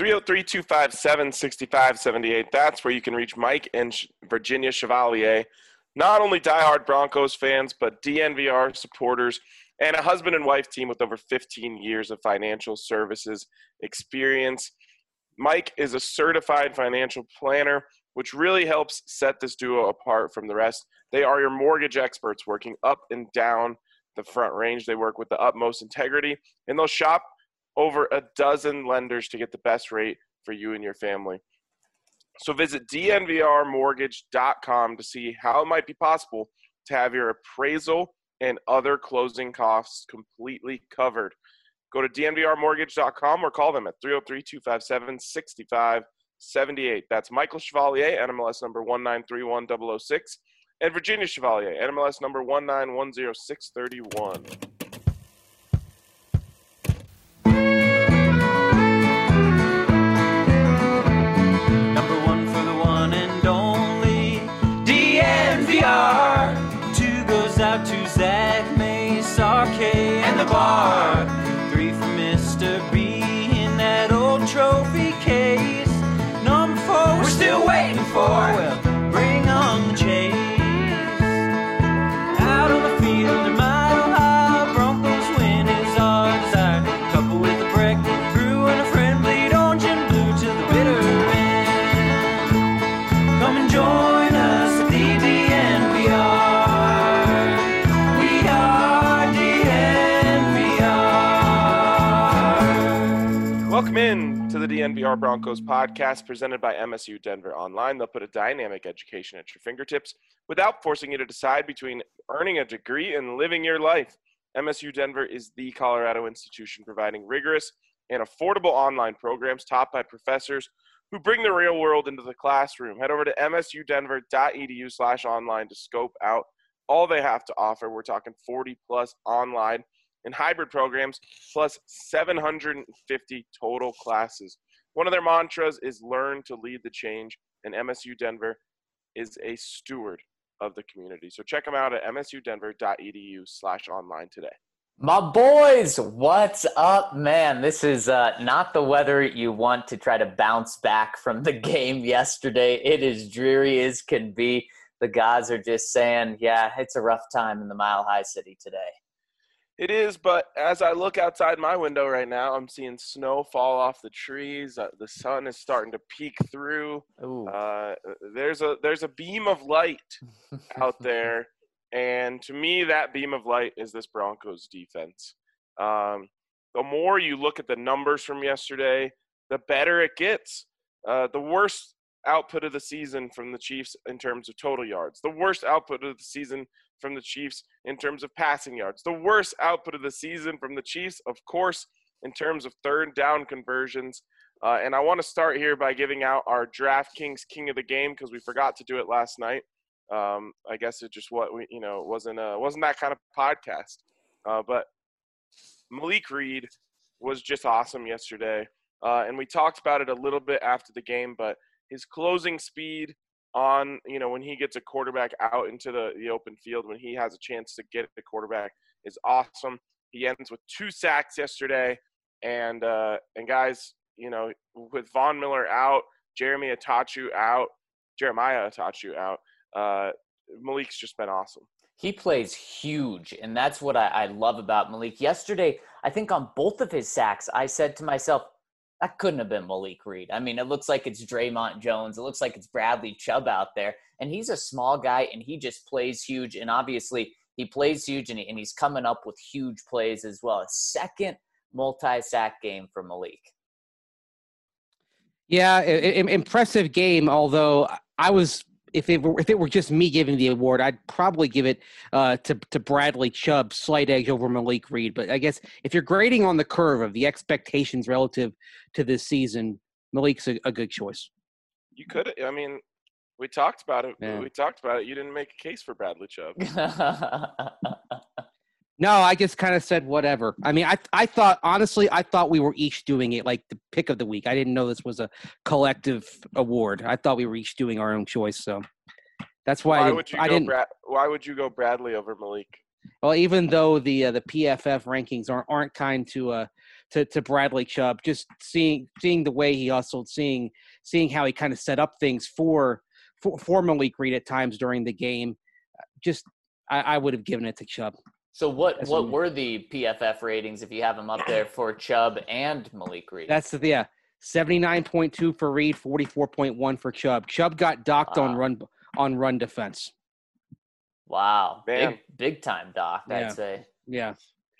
303-257-6578. That's where you can reach Mike and Virginia Chevalier, not only diehard Broncos fans, but DNVR supporters and a husband and wife team with over 15 years of financial services experience. Mike is a certified financial planner, which really helps set this duo apart from the rest. They are your mortgage experts working up and down the front range. They work with the utmost integrity, and they'll shop over a dozen lenders to get the best rate for you and your family. So visit dnvrmortgage.com to see how it might be possible to have your appraisal and other closing costs completely covered. Go to dnvrmortgage.com or call them at 303-257-6578. That's Michael Chevalier, NMLS number 1931006, and Virginia Chevalier, NMLS number 1910631. Out to Zach, Mace, RK, and the bar. 3 for Mr. B in that old trophy case. Number 4 we're still waiting for. Well, bring on the chase. Out on the field in Mile High, Broncos win is our desire. Couple with a break, brew and a friend, bleed orange and blue to the bitter end. Come and join us at the DNVR. Welcome in to the DNVR Broncos podcast presented by MSU Denver Online. They'll put a dynamic education at your fingertips without forcing you to decide between earning a degree and living your life. MSU Denver is the Colorado institution providing rigorous and affordable online programs taught by professors who bring the real world into the classroom. Head over to msudenver.edu/online to scope out all they have to offer. We're talking 40-plus online and hybrid programs, plus 750 total classes. One of their mantras is learn to lead the change, and MSU Denver is a steward of the community. So check them out at msudenver.edu/online today. My boys, what's up, man? This is not the weather you want to try to bounce back from the game yesterday. It is dreary as can be. The guys are just saying, yeah, it's a rough time in the Mile High City today. It is, but as I look outside my window right now, I'm seeing snow fall off the trees. The sun is starting to peek through. There's a beam of light out there, and to me, that beam of light is this Broncos defense. The more you look at the numbers from yesterday, the better it gets. The worst output of the season from the Chiefs in terms of total yards. The worst output of the season from the Chiefs in terms of passing yards. The worst output of the season from the Chiefs, of course, in terms of third down conversions. And I want to start here by giving out our DraftKings King of the Game because we forgot to do it last night. I guess it just wasn't that kind of podcast. But Malik Reed was just awesome yesterday. And we talked about it a little bit after the game, but his closing speed on, when he gets a quarterback out into the open field, when he has a chance to get the quarterback, is awesome. He ends with 2 sacks yesterday. And guys, with Von Miller out, Jeremiah Attaochu out, Malik's just been awesome. He plays huge, and that's what I love about Malik. Yesterday, I think on both of his sacks, I said to myself, that couldn't have been Malik Reed. I mean, it looks like it's Draymond Jones. It looks like it's Bradley Chubb out there. And he's a small guy, and he just plays huge. And obviously, he plays huge, and he's coming up with huge plays as well. A second multi-sack game for Malik. Yeah, impressive game, although if it were just me giving the award, I'd probably give it to Bradley Chubb, slight edge over Malik Reed. But I guess if you're grading on the curve of the expectations relative to this season, Malik's a good choice. You could. I mean, we talked about it. Yeah. We talked about it. You didn't make a case for Bradley Chubb. No, I just kind of said whatever. I mean, I thought we were each doing it like the pick of the week. I didn't know this was a collective award. I thought we were each doing our own choice. So that's why Why would you go Bradley over Malik? Well, even though the PFF rankings aren't kind to to Bradley Chubb. Just seeing the way he hustled, seeing how he kind of set up things for Malik Reed at times during the game. Just I would have given it to Chubb. So what were the PFF ratings, if you have them up there, for Chubb and Malik Reed? That's 79.2 for Reed, 44.1 for Chubb. Chubb got docked on run defense. Wow, man. big time docked, I'd say. Yeah.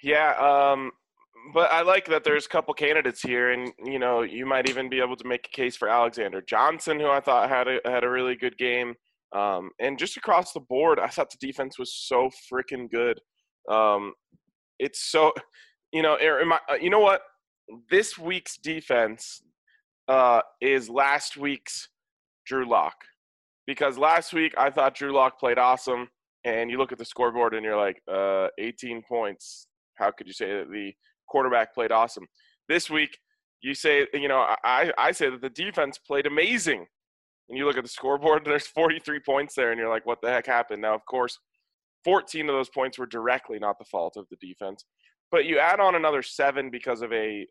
But I like that there's a couple candidates here, and you might even be able to make a case for Alexander Johnson, who I thought had a really good game. And just across the board, I thought the defense was so freaking good. It's so, you know what? This week's defense is last week's Drew Lock, because last week I thought Drew Lock played awesome, and you look at the scoreboard and you're like, 18 points. How could you say that the quarterback played awesome? This week, you say, I say that the defense played amazing. And you look at the scoreboard, there's 43 points there, and you're like, what the heck happened? Now, of course, 14 of those points were directly not the fault of the defense. But you add on another 7 because of an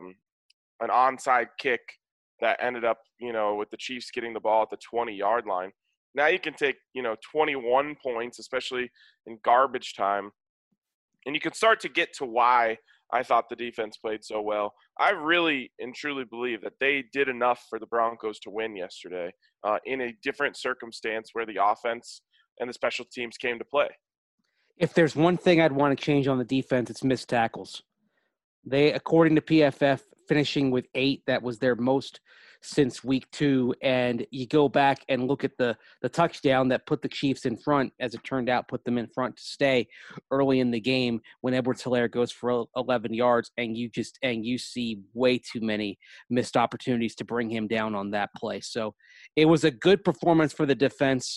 onside kick that ended up, with the Chiefs getting the ball at the 20-yard line. Now you can take, 21 points, especially in garbage time, and you can start to get to why I thought the defense played so well. I really and truly believe that they did enough for the Broncos to win yesterday in a different circumstance where the offense and the special teams came to play. If there's one thing I'd want to change on the defense, it's missed tackles. They, according to PFF, finishing with 8. That was their most since week 2. And you go back and look at the touchdown that put the Chiefs in front, as it turned out, put them in front to stay early in the game when Edwards-Helaire goes for 11 yards, and you see way too many missed opportunities to bring him down on that play. So it was a good performance for the defense.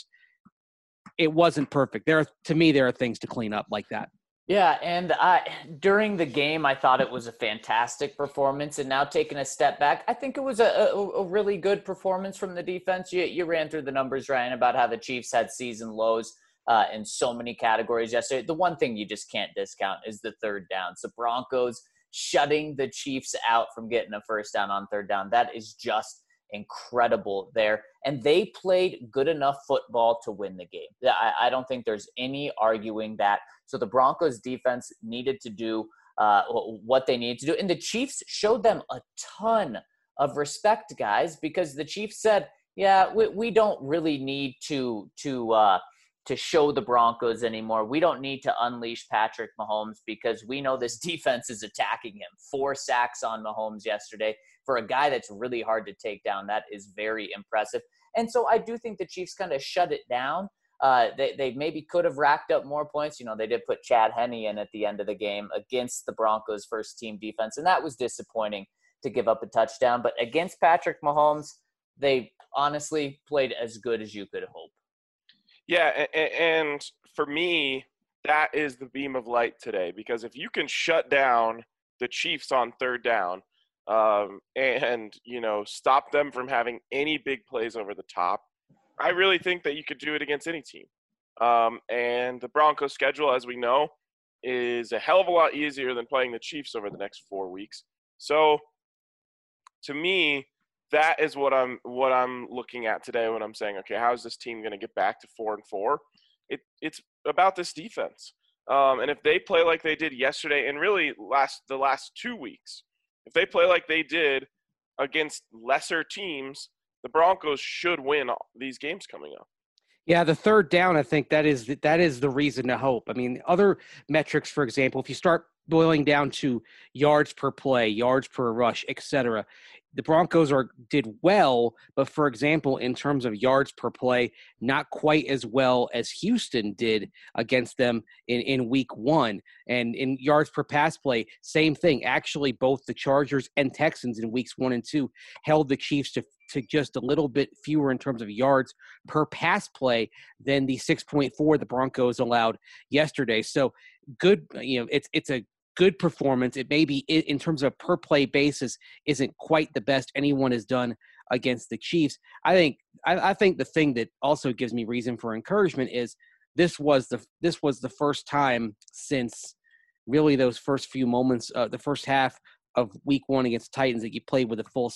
It wasn't perfect. To me, there are things to clean up like that. Yeah, and during the game, I thought it was a fantastic performance. And now taking a step back, I think it was a really good performance from the defense. You ran through the numbers, Ryan, about how the Chiefs had season lows in so many categories yesterday. The one thing you just can't discount is the third downs. The Broncos shutting the Chiefs out from getting a first down on third down. That is just incredible there. And they played good enough football to win the game. I don't think there's any arguing that. So the Broncos defense needed to do what they needed to do. And the Chiefs showed them a ton of respect, guys, because the Chiefs said, yeah, we don't really need to show the Broncos anymore. We don't need to unleash Patrick Mahomes because we know this defense is attacking him. 4 sacks on Mahomes yesterday. For a guy that's really hard to take down, that is very impressive. And so I do think the Chiefs kind of shut it down. They maybe could have racked up more points. They did put Chad Henne in at the end of the game against the Broncos' first-team defense, and that was disappointing to give up a touchdown. But against Patrick Mahomes, they honestly played as good as you could hope. Yeah, and for me, that is the beam of light today, because if you can shut down the Chiefs on third down and, stop them from having any big plays over the top, I really think that you could do it against any team. And the Broncos schedule, as we know, is a hell of a lot easier than playing the Chiefs over the next 4 weeks. So to me, that is what I'm looking at today when I'm saying, okay, how is this team going to get back to 4-4? It's about this defense. And if they play like they did yesterday, and really the last 2 weeks, if they play like they did against lesser teams, the Broncos should win these games coming up. Yeah, the third down, I think that is the reason to hope. I mean, other metrics, for example, if you start boiling down to yards per play, yards per rush, etc., the Broncos did well, but for example, in terms of yards per play, not quite as well as Houston did against them in week 1. And in yards per pass play, same thing. Actually, both the Chargers and Texans in weeks 1 and 2 held the Chiefs to just a little bit fewer in terms of yards per pass play than the 6.4 the Broncos allowed yesterday. So good, it's a good performance. It may be, in terms of per play basis, isn't quite the best anyone has done against the Chiefs. I think the thing that also gives me reason for encouragement is this was the first time since really those first few moments, the first half of week 1 against Titans that you played with a full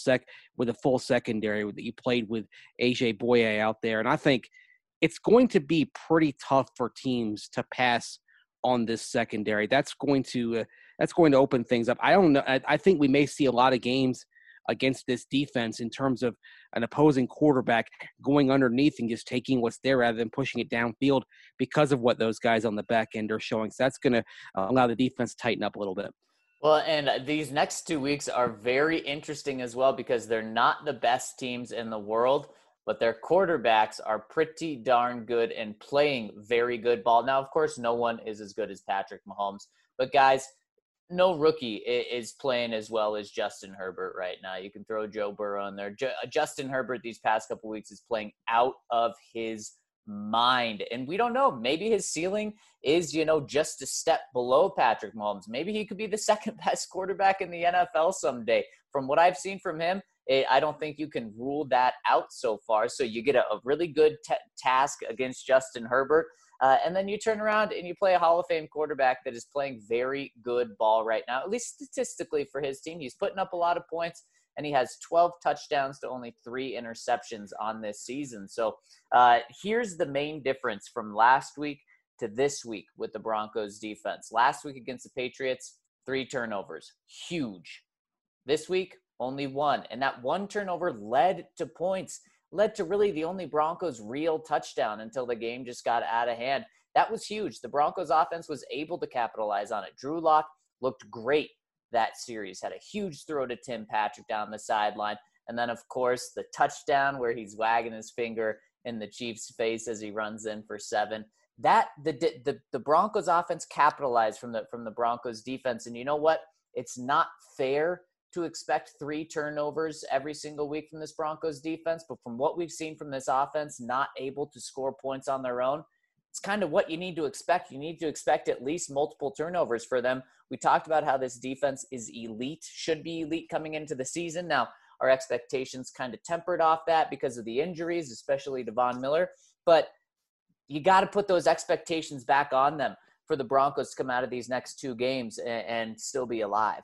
secondary, that you played with AJ Boye out there. And I think it's going to be pretty tough for teams to pass on this secondary. That's going to open things up. I don't know. I think we may see a lot of games against this defense in terms of an opposing quarterback going underneath and just taking what's there rather than pushing it downfield because of what those guys on the back end are showing. So that's going to allow the defense to tighten up a little bit. Well, and these next 2 weeks are very interesting as well because they're not the best teams in the world, but their quarterbacks are pretty darn good and playing very good ball. Now, of course, no one is as good as Patrick Mahomes, but guys, no rookie is playing as well as Justin Herbert right now. You can throw Joe Burrow in there. Justin Herbert these past couple weeks is playing out of his mind. And we don't know. Maybe his ceiling is, just a step below Patrick Mahomes. Maybe he could be the second best quarterback in the NFL someday. From what I've seen from him, I don't think you can rule that out so far. So you get a really good task against Justin Herbert. And then you turn around and you play a Hall of Fame quarterback that is playing very good ball right now, at least statistically for his team. He's putting up a lot of points, and he has 12 touchdowns to only 3 interceptions on this season. So here's the main difference from last week to this week with the Broncos defense. Last week against the Patriots, 3 turnovers. Huge. This week, only 1. And that 1 turnover led to points. Led to really the only Broncos real touchdown until the game just got out of hand. That was huge. The Broncos offense was able to capitalize on it. Drew Lock looked great that series, had a huge throw to Tim Patrick down the sideline. And then, of course, the touchdown where he's wagging his finger in the Chiefs' face as he runs in for 7. That the Broncos offense capitalized from the Broncos defense. And you know what? It's not fair to expect 3 turnovers every single week from this Broncos defense. But from what we've seen from this offense, not able to score points on their own, it's kind of what you need to expect. You need to expect at least multiple turnovers for them. We talked about how this defense is elite, should be elite coming into the season. Now, our expectations kind of tempered off that because of the injuries, especially Devon Miller. But you got to put those expectations back on them for the Broncos to come out of these next 2 games and still be alive.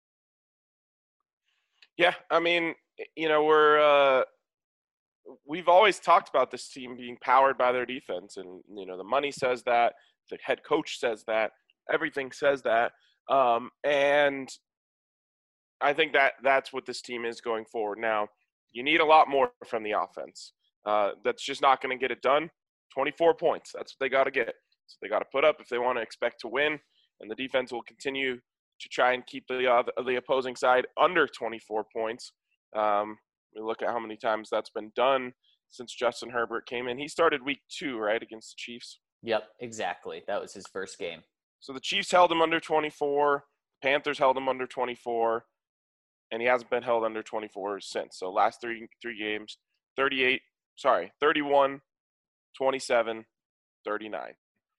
Yeah, I mean, we've always talked about this team being powered by their defense, and the money says that, the head coach says that, everything says that, and I think that's what this team is going forward. Now, you need a lot more from the offense. That's just not going to get it done. 24 points, that's what they got to get. So they got to put up if they want to expect to win, and the defense will continue to try and keep the opposing side under 24 points. We look at how many times that's been done since Justin Herbert came in. He started week 2, right, against the Chiefs? Yep, exactly. That was his first game. So the Chiefs held him under 24. Panthers held him under 24. And he hasn't been held under 24 since. So last three games, 31, 27, 39.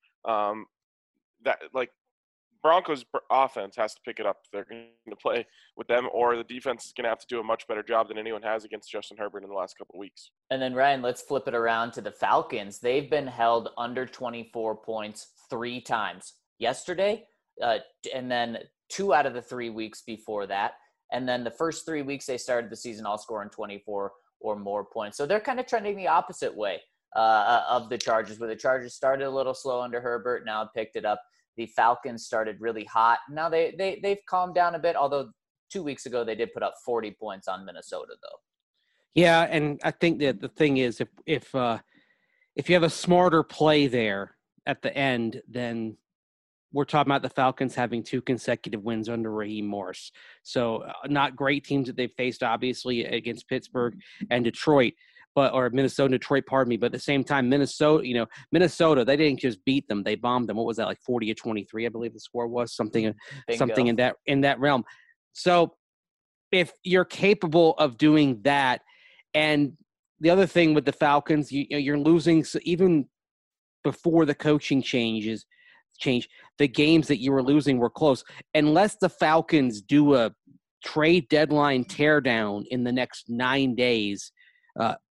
Broncos offense has to pick it up if they're going to play with them, or the defense is going to have to do a much better job than anyone has against Justin Herbert in the last couple of weeks. And then, Ryan, let's flip it around to the Falcons. They've been held under 24 points 3 times. Yesterday, and then 2 out of the 3 weeks before that. And then the first 3 weeks they started the season all scoring 24 or more points. So they're kind of trending the opposite way of the Chargers, where the Chargers started a little slow under Herbert, now picked it up. The Falcons started really hot. Now they've calmed down a bit, although 2 weeks ago they did put up 40 points on Minnesota, though. Yeah, and I think that the thing is, if you have a smarter play there at the end, then we're talking about the Falcons having 2 consecutive wins under Raheem Morris. So not great teams that they've faced, obviously, against Pittsburgh and Detroit. Or Minnesota, Detroit, pardon me. But at the same time, Minnesota, they didn't just beat them; they bombed them. What was that, like 40-23? I believe the score was something in that realm. So, if you're capable of doing that, and the other thing with the Falcons, you're losing. So even before the coaching change, the games that you were losing were close. Unless the Falcons do a trade deadline teardown in the next 9 days.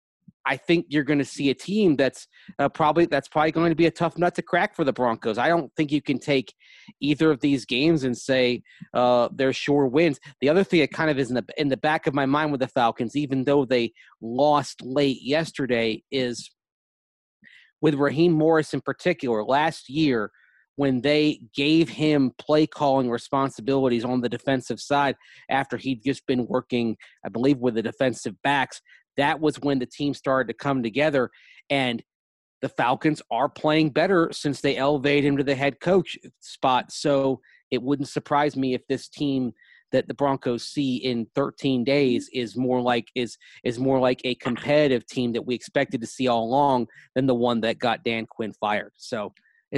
I think you're going to see a team that's probably going to be a tough nut to crack for the Broncos. I don't think you can take either of these games and say they're sure wins. The other thing that kind of is in the back of my mind with the Falcons, even though they lost late yesterday, is with Raheem Morris in particular. Last year, when they gave him play calling responsibilities on the defensive side after he'd just been working, I believe, with the defensive backs, that was when the team started to come together. And the Falcons are playing better since they elevated him to the head coach spot. So it wouldn't surprise me if this team that the Broncos see in 13 days is more like a competitive team that we expected to see all along than the one that got Dan Quinn fired. So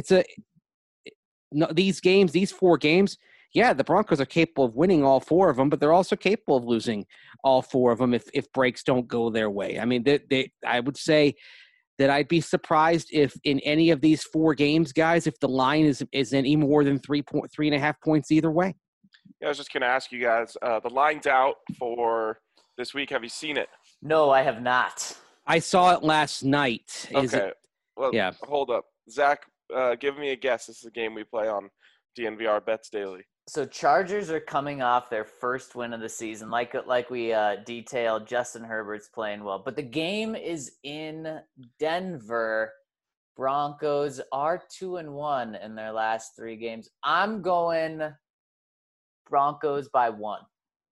these 4 games, yeah, the Broncos are capable of winning all 4 of them, but they're also capable of losing all 4 of them if breaks don't go their way. I mean, I would say that I'd be surprised if in any of these 4 games, guys, if the line is any more than 3.5 points either way. Yeah, I was just going to ask you guys, the line's out for this week. Have you seen it? No, I have not. I saw it last night. Yeah. Hold up. Zach, give me a guess. This is a game we play on DNVR Bets Daily. So Chargers are coming off their first win of the season. Like we detailed, Justin Herbert's playing well. But the game is in Denver. Broncos are 2-1 in their last 3 games. I'm going Broncos by 1.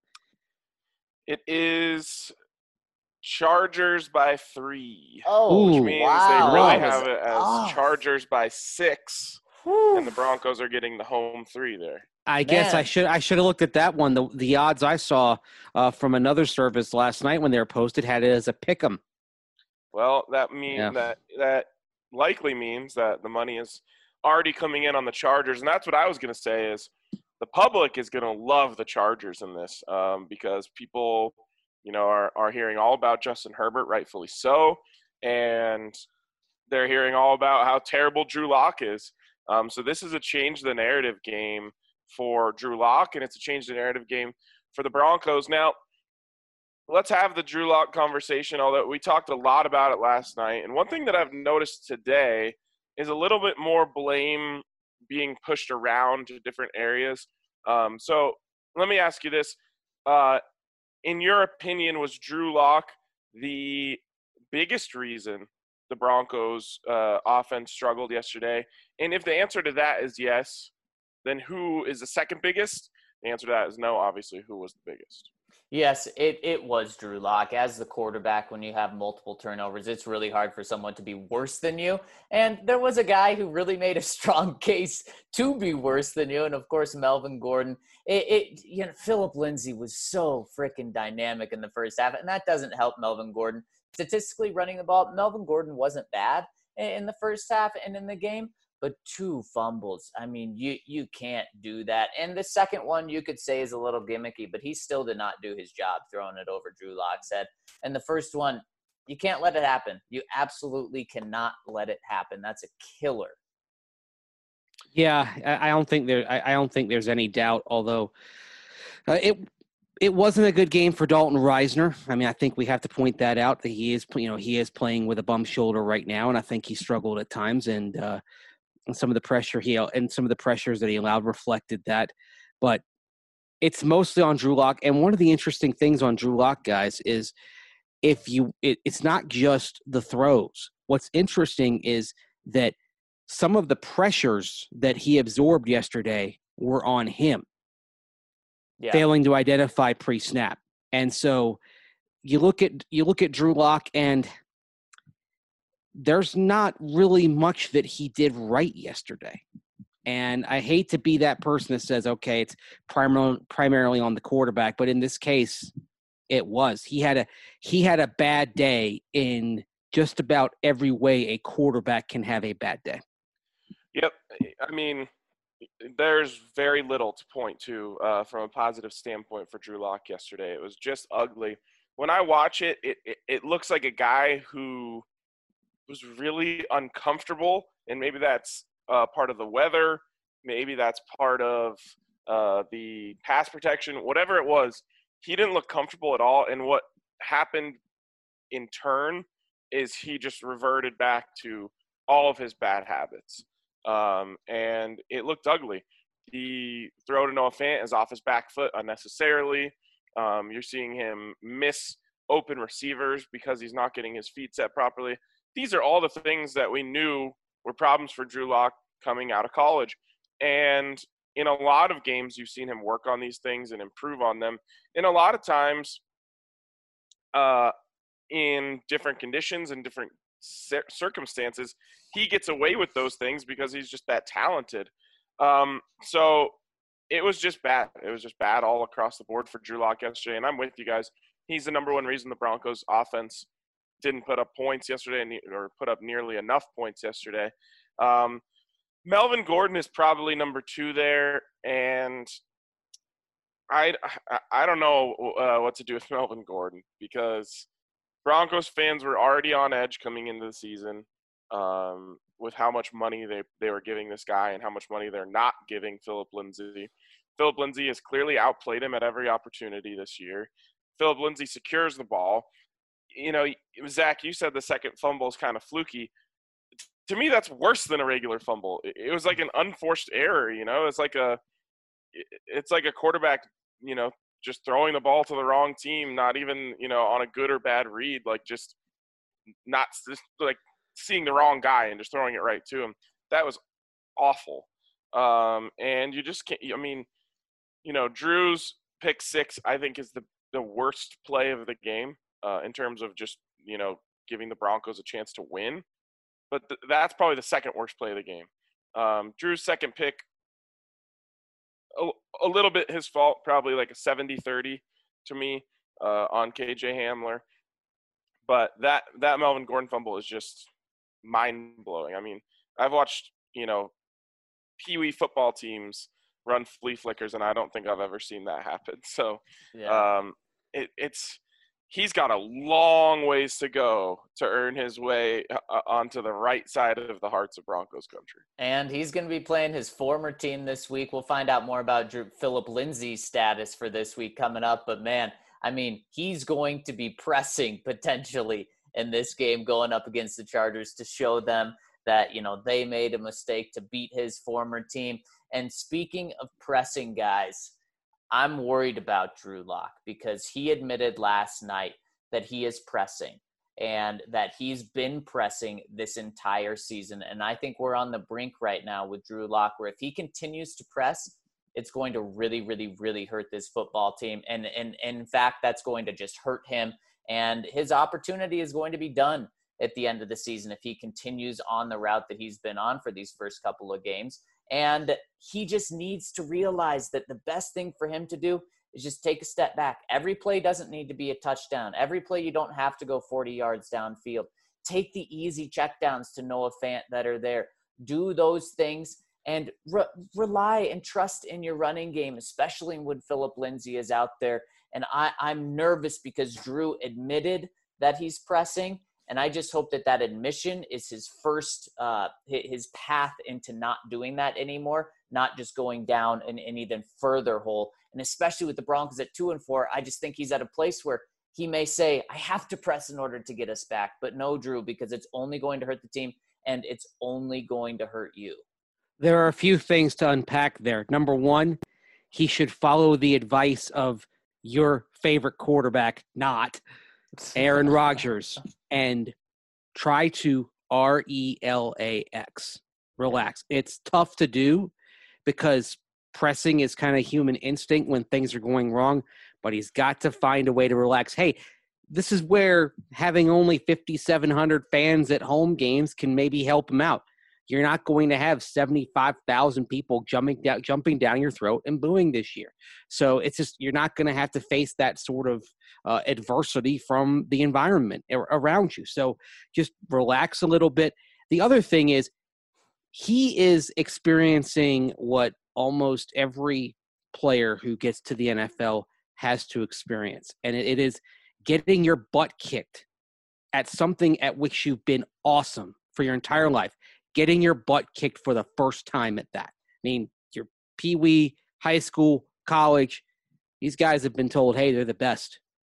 It is Chargers by 3. Oh, which means wow. they really have it as Chargers by 6. And the Broncos are getting the home 3 there. I guess I should have looked at that one. The odds I saw from another service last night when they were posted had it as a pick 'em. Well, that means that likely means that the money is already coming in on the Chargers, and that's what I was going to say is the public is going to love the Chargers in this because people, are hearing all about Justin Herbert, rightfully so, and they're hearing all about how terrible Drew Lock is. So this is a change the narrative game for Drew Lock, and it's a change the narrative game for the Broncos. Now, let's have the Drew Lock conversation, although we talked a lot about it last night. And one thing that I've noticed today is a little bit more blame being pushed around to different areas. So let me ask you this. In your opinion, was Drew Lock the biggest reason the Broncos offense struggled yesterday? And if the answer to that is yes, then who is the second biggest? The answer to that is no, obviously. Who was the biggest? Yes, it was Drew Lock. As the quarterback, when you have multiple turnovers, it's really hard for someone to be worse than you. And there was a guy who really made a strong case to be worse than you, and of course, Melvin Gordon. Philip Lindsay was so freaking dynamic in the first half, and that doesn't help Melvin Gordon. Statistically, running the ball, Melvin Gordon wasn't bad in the first half and in the game. But 2 fumbles, I mean, you can't do that. And the second one you could say is a little gimmicky, but he still did not do his job throwing it over Drew Lock's head. And the first one, you can't let it happen. You absolutely cannot let it happen. That's a killer. Yeah, I don't think there's any doubt. Although it wasn't a good game for Dalton Reisner. I mean, I think we have to point that out that he is playing with a bum shoulder right now, and I think he struggled at times and some of the pressure some of the pressures that he allowed reflected that. But it's mostly on Drew Lock. And one of the interesting things on Drew Lock, guys, is it's not just the throws. What's interesting is that some of the pressures that he absorbed yesterday were on him, failing to identify pre-snap. And so you look at Drew Lock, and there's not really much that he did right yesterday. And I hate to be that person that says, okay, it's primarily on the quarterback, but in this case, it was. He had a bad day in just about every way a quarterback can have a bad day. Yep. I mean, there's very little to point to from a positive standpoint for Drew Lock yesterday. It was just ugly. When I watch it, it looks like a guy who was really uncomfortable, and maybe that's part of the weather, maybe that's part of the pass protection, whatever it was. He didn't look comfortable at all, and what happened in turn is he just reverted back to all of his bad habits. And it looked ugly. The throw to Noah Fant is off his back foot unnecessarily. You're seeing him miss open receivers because he's not getting his feet set properly. These are all the things that we knew were problems for Drew Lock coming out of college. And in a lot of games, you've seen him work on these things and improve on them. And a lot of times, in different conditions and different circumstances, he gets away with those things because he's just that talented. So it was just bad. It was just bad all across the board for Drew Lock yesterday. And I'm with you guys. He's the number one reason the Broncos offense didn't put up points yesterday or put up nearly enough points yesterday. Melvin Gordon is probably number 2 there. And I don't know what to do with Melvin Gordon because Broncos fans were already on edge coming into the season with how much money they were giving this guy and how much money they're not giving Philip Lindsay. Philip Lindsay has clearly outplayed him at every opportunity this year. Philip Lindsay secures the ball. You know, Zach, you said the second fumble is kind of fluky. To me, that's worse than a regular fumble. It was like an unforced error, you know? It's like a quarterback, you know, just throwing the ball to the wrong team, not even, you know, on a good or bad read, like just seeing the wrong guy and just throwing it right to him. That was awful. And you just can't – I mean, you know, Drew's pick 6 I think is the worst play of the game in terms of just, you know, giving the Broncos a chance to win. But that's probably the second worst play of the game. Drew's second pick, a little bit his fault, probably like a 70-30 to me on KJ Hamler. But that Melvin Gordon fumble is just mind-blowing. I mean, I've watched, you know, Pee-wee football teams run flea flickers, and I don't think I've ever seen that happen. So Yeah. He's got a long ways to go to earn his way onto the right side of the hearts of Broncos country. And he's going to be playing his former team this week. We'll find out more about Philip Lindsay's status for this week coming up. But, man, I mean, he's going to be pressing potentially in this game going up against the Chargers to show them that, you know, they made a mistake to beat his former team. And speaking of pressing, guys, I'm worried about Drew Lock because he admitted last night that he is pressing and that he's been pressing this entire season. And I think we're on the brink right now with Drew Lock, where if he continues to press, it's going to really, really, really hurt this football team. And in fact, that's going to just hurt him. And his opportunity is going to be done at the end of the season if he continues on the route that he's been on for these first couple of games. And he just needs to realize that the best thing for him to do is just take a step back. Every play doesn't need to be a touchdown. Every play you don't have to go 40 yards downfield. Take the easy checkdowns to Noah Fant that are there. Do those things and rely and trust in your running game, especially when Philip Lindsay is out there. And I'm nervous because Drew admitted that he's pressing. And I just hope that admission is his first, his path into not doing that anymore, not just going down an even further hole. And especially with the Broncos at 2-4, I just think he's at a place where he may say, I have to press in order to get us back. But no, Drew, because it's only going to hurt the team and it's only going to hurt you. There are a few things to unpack there. Number one, he should follow the advice of your favorite quarterback, not Aaron Rodgers, and try to relax. Relax. It's tough to do because pressing is kind of human instinct when things are going wrong, but he's got to find a way to relax. Hey, this is where having only 5,700 fans at home games can maybe help him out. You're not going to have 75,000 people jumping down your throat and booing this year. So it's just, you're not going to have to face that sort of adversity from the environment around you. So just relax a little bit. The other thing is he is experiencing what almost every player who gets to the NFL has to experience. And it is getting your butt kicked at something at which you've been awesome for your entire life. Getting your butt kicked for the first time at that. I mean, your Pee-wee, high school, college, these guys have been told, hey, they're the best.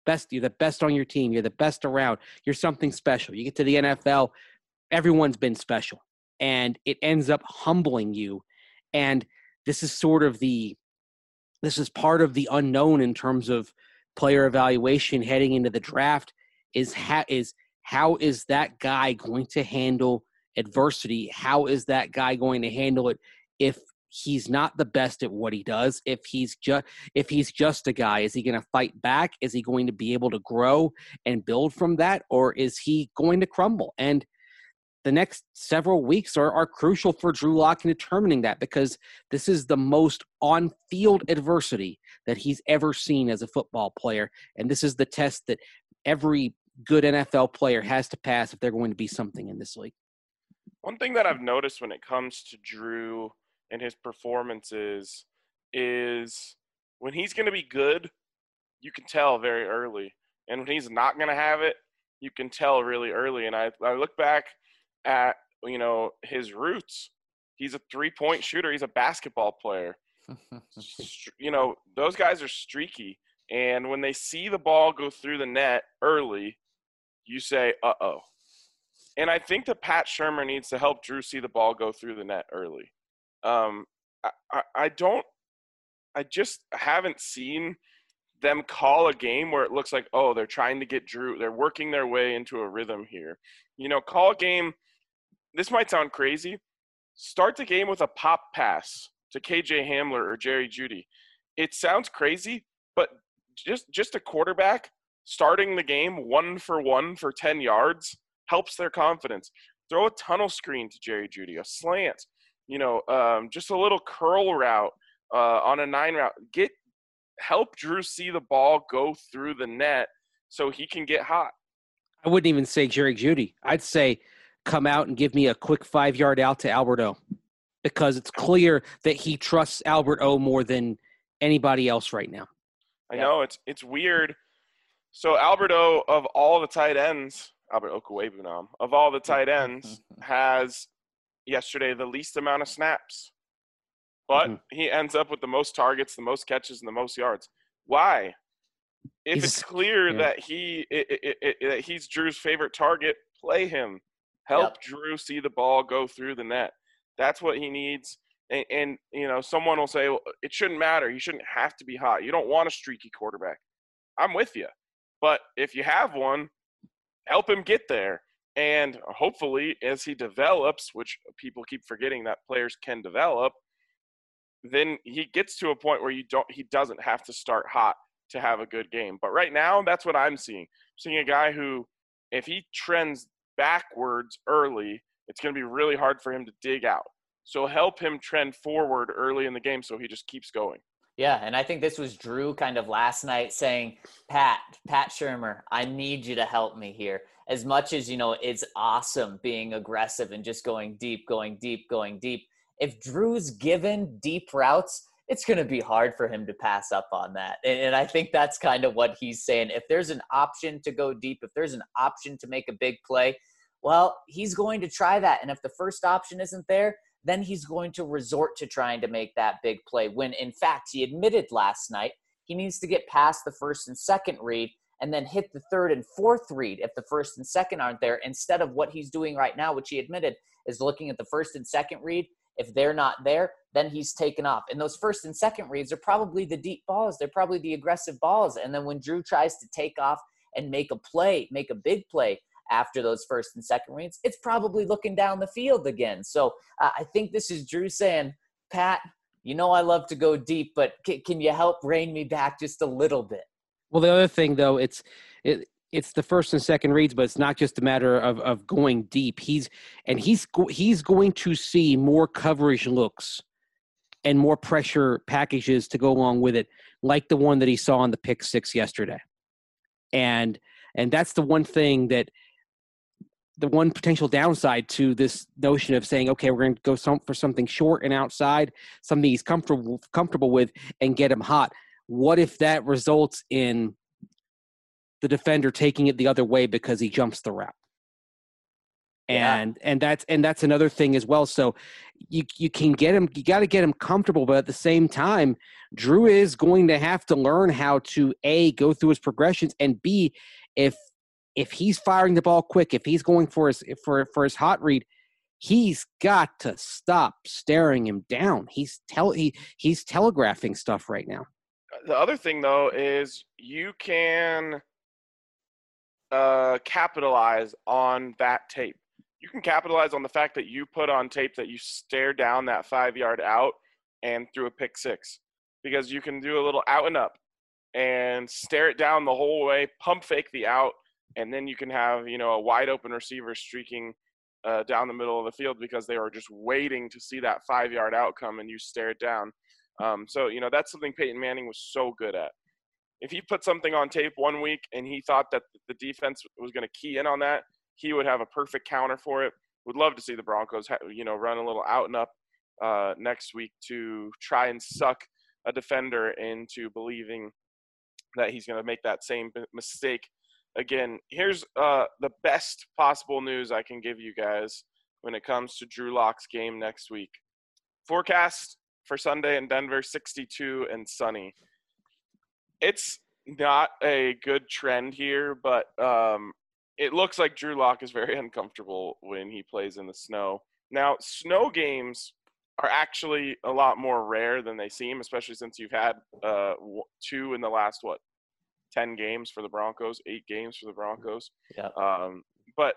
You're the best on your team. You're the best around. You're something special. You get to the NFL, everyone's been special. And it ends up humbling you. And this is part of the unknown in terms of player evaluation heading into the draft is how is that guy going to handle adversity? How is that guy going to handle it if he's not the best at what he does? If he's just a guy, is he going to fight back? Is he going to be able to grow and build from that? Or is he going to crumble? And the next several weeks are crucial for Drew Lock in determining that, because this is the most on-field adversity that he's ever seen as a football player. And this is the test that every good NFL player has to pass if they're going to be something in this league. One thing that I've noticed when it comes to Drew and his performances is when he's going to be good, you can tell very early. And when he's not going to have it, you can tell really early. And I look back at, his roots. He's a 3-point shooter. He's a basketball player. Those guys are streaky. And when they see the ball go through the net early, you say, uh-oh. And I think that Pat Shurmur needs to help Drew see the ball go through the net early. I just haven't seen them call a game where it looks like, oh, they're trying to get Drew. They're working their way into a rhythm here. Call a game. This might sound crazy. Start the game with a pop pass to KJ Hamler or Jerry Jeudy. It sounds crazy, but just a quarterback starting the game 1-for-1 for 10 yards helps their confidence. Throw a tunnel screen to Jerry Jeudy, a slant, just a little curl route on a 9 route. Help Drew see the ball go through the net so he can get hot. I wouldn't even say Jerry Jeudy. I'd say come out and give me a quick 5-yard out to Albert O, because it's clear that he trusts Albert O more than anybody else right now. I know it's weird. So Albert O, of all the tight ends, Albert Okwuegbunam, of all the tight ends, has yesterday the least amount of snaps. But he ends up with the most targets, the most catches, and the most yards. Why? If it's clear that he's Drew's favorite target, play him. Help Drew see the ball go through the net. That's what he needs. And someone will say, well, it shouldn't matter. He shouldn't have to be hot. You don't want a streaky quarterback. I'm with you. But if you have one, help him get there. And hopefully, as he develops, which people keep forgetting that players can develop, then he gets to a point where he doesn't have to start hot to have a good game. But right now, that's what I'm seeing. I'm seeing a guy who, if he trends backwards early, it's going to be really hard for him to dig out. So help him trend forward early in the game so he just keeps going. Yeah, and I think this was Drew kind of last night saying, Pat Shurmur, I need you to help me here. As much as, it's awesome being aggressive and just going deep. If Drew's given deep routes, it's going to be hard for him to pass up on that. And I think that's kind of what he's saying. If there's an option to go deep, if there's an option to make a big play, well, he's going to try that. And if the first option isn't there, then he's going to resort to trying to make that big play, when in fact he admitted last night he needs to get past the first and second read and then hit the third and fourth read if the first and second aren't there, instead of what he's doing right now, which he admitted is looking at the first and second read. If they're not there, then he's taken off. And those first and second reads are probably the deep balls. They're probably the aggressive balls. And then when Drew tries to take off and make a big play after those first and second reads, it's probably looking down the field again. So I think this is Drew saying, Pat, I love to go deep, but can you help rein me back just a little bit? Well, the other thing, though, it's the first and second reads, but it's not just a matter of going deep. He's going to see more coverage looks and more pressure packages to go along with it, like the one that he saw on the pick six yesterday. And that's the one thing the one potential downside to this notion of saying, okay, we're going to go for something short and outside, something he's comfortable with, and get him hot. What if that results in the defender taking it the other way because he jumps the route? and that's another thing as well. So you can get him. You got to get him comfortable, but at the same time, Drew is going to have to learn how to A, go through his progressions, and B, if he's firing the ball quick, if he's going for his hot read, he's got to stop staring him down. He's telegraphing stuff right now. The other thing, though, is you can capitalize on that tape. You can capitalize on the fact that you put on tape that you stare down that 5-yard out and threw a pick six, because you can do a little out and up and stare it down the whole way, pump fake the out, and then you can have, a wide open receiver streaking down the middle of the field because they were just waiting to see that 5-yard outcome, and you stare it down. So that's something Peyton Manning was so good at. If he put something on tape one week and he thought that the defense was going to key in on that, he would have a perfect counter for it. Would love to see the Broncos, run a little out and up next week to try and suck a defender into believing that he's going to make that same mistake again. Here's the best possible news I can give you guys when it comes to Drew Lock's game next week. Forecast for Sunday in Denver, 62 and sunny. It's not a good trend here, but it looks like Drew Lock is very uncomfortable when he plays in the snow. Now, snow games are actually a lot more rare than they seem, especially since you've had 2 in the last, 10 games for the Broncos, 8 games for the Broncos. Yeah. But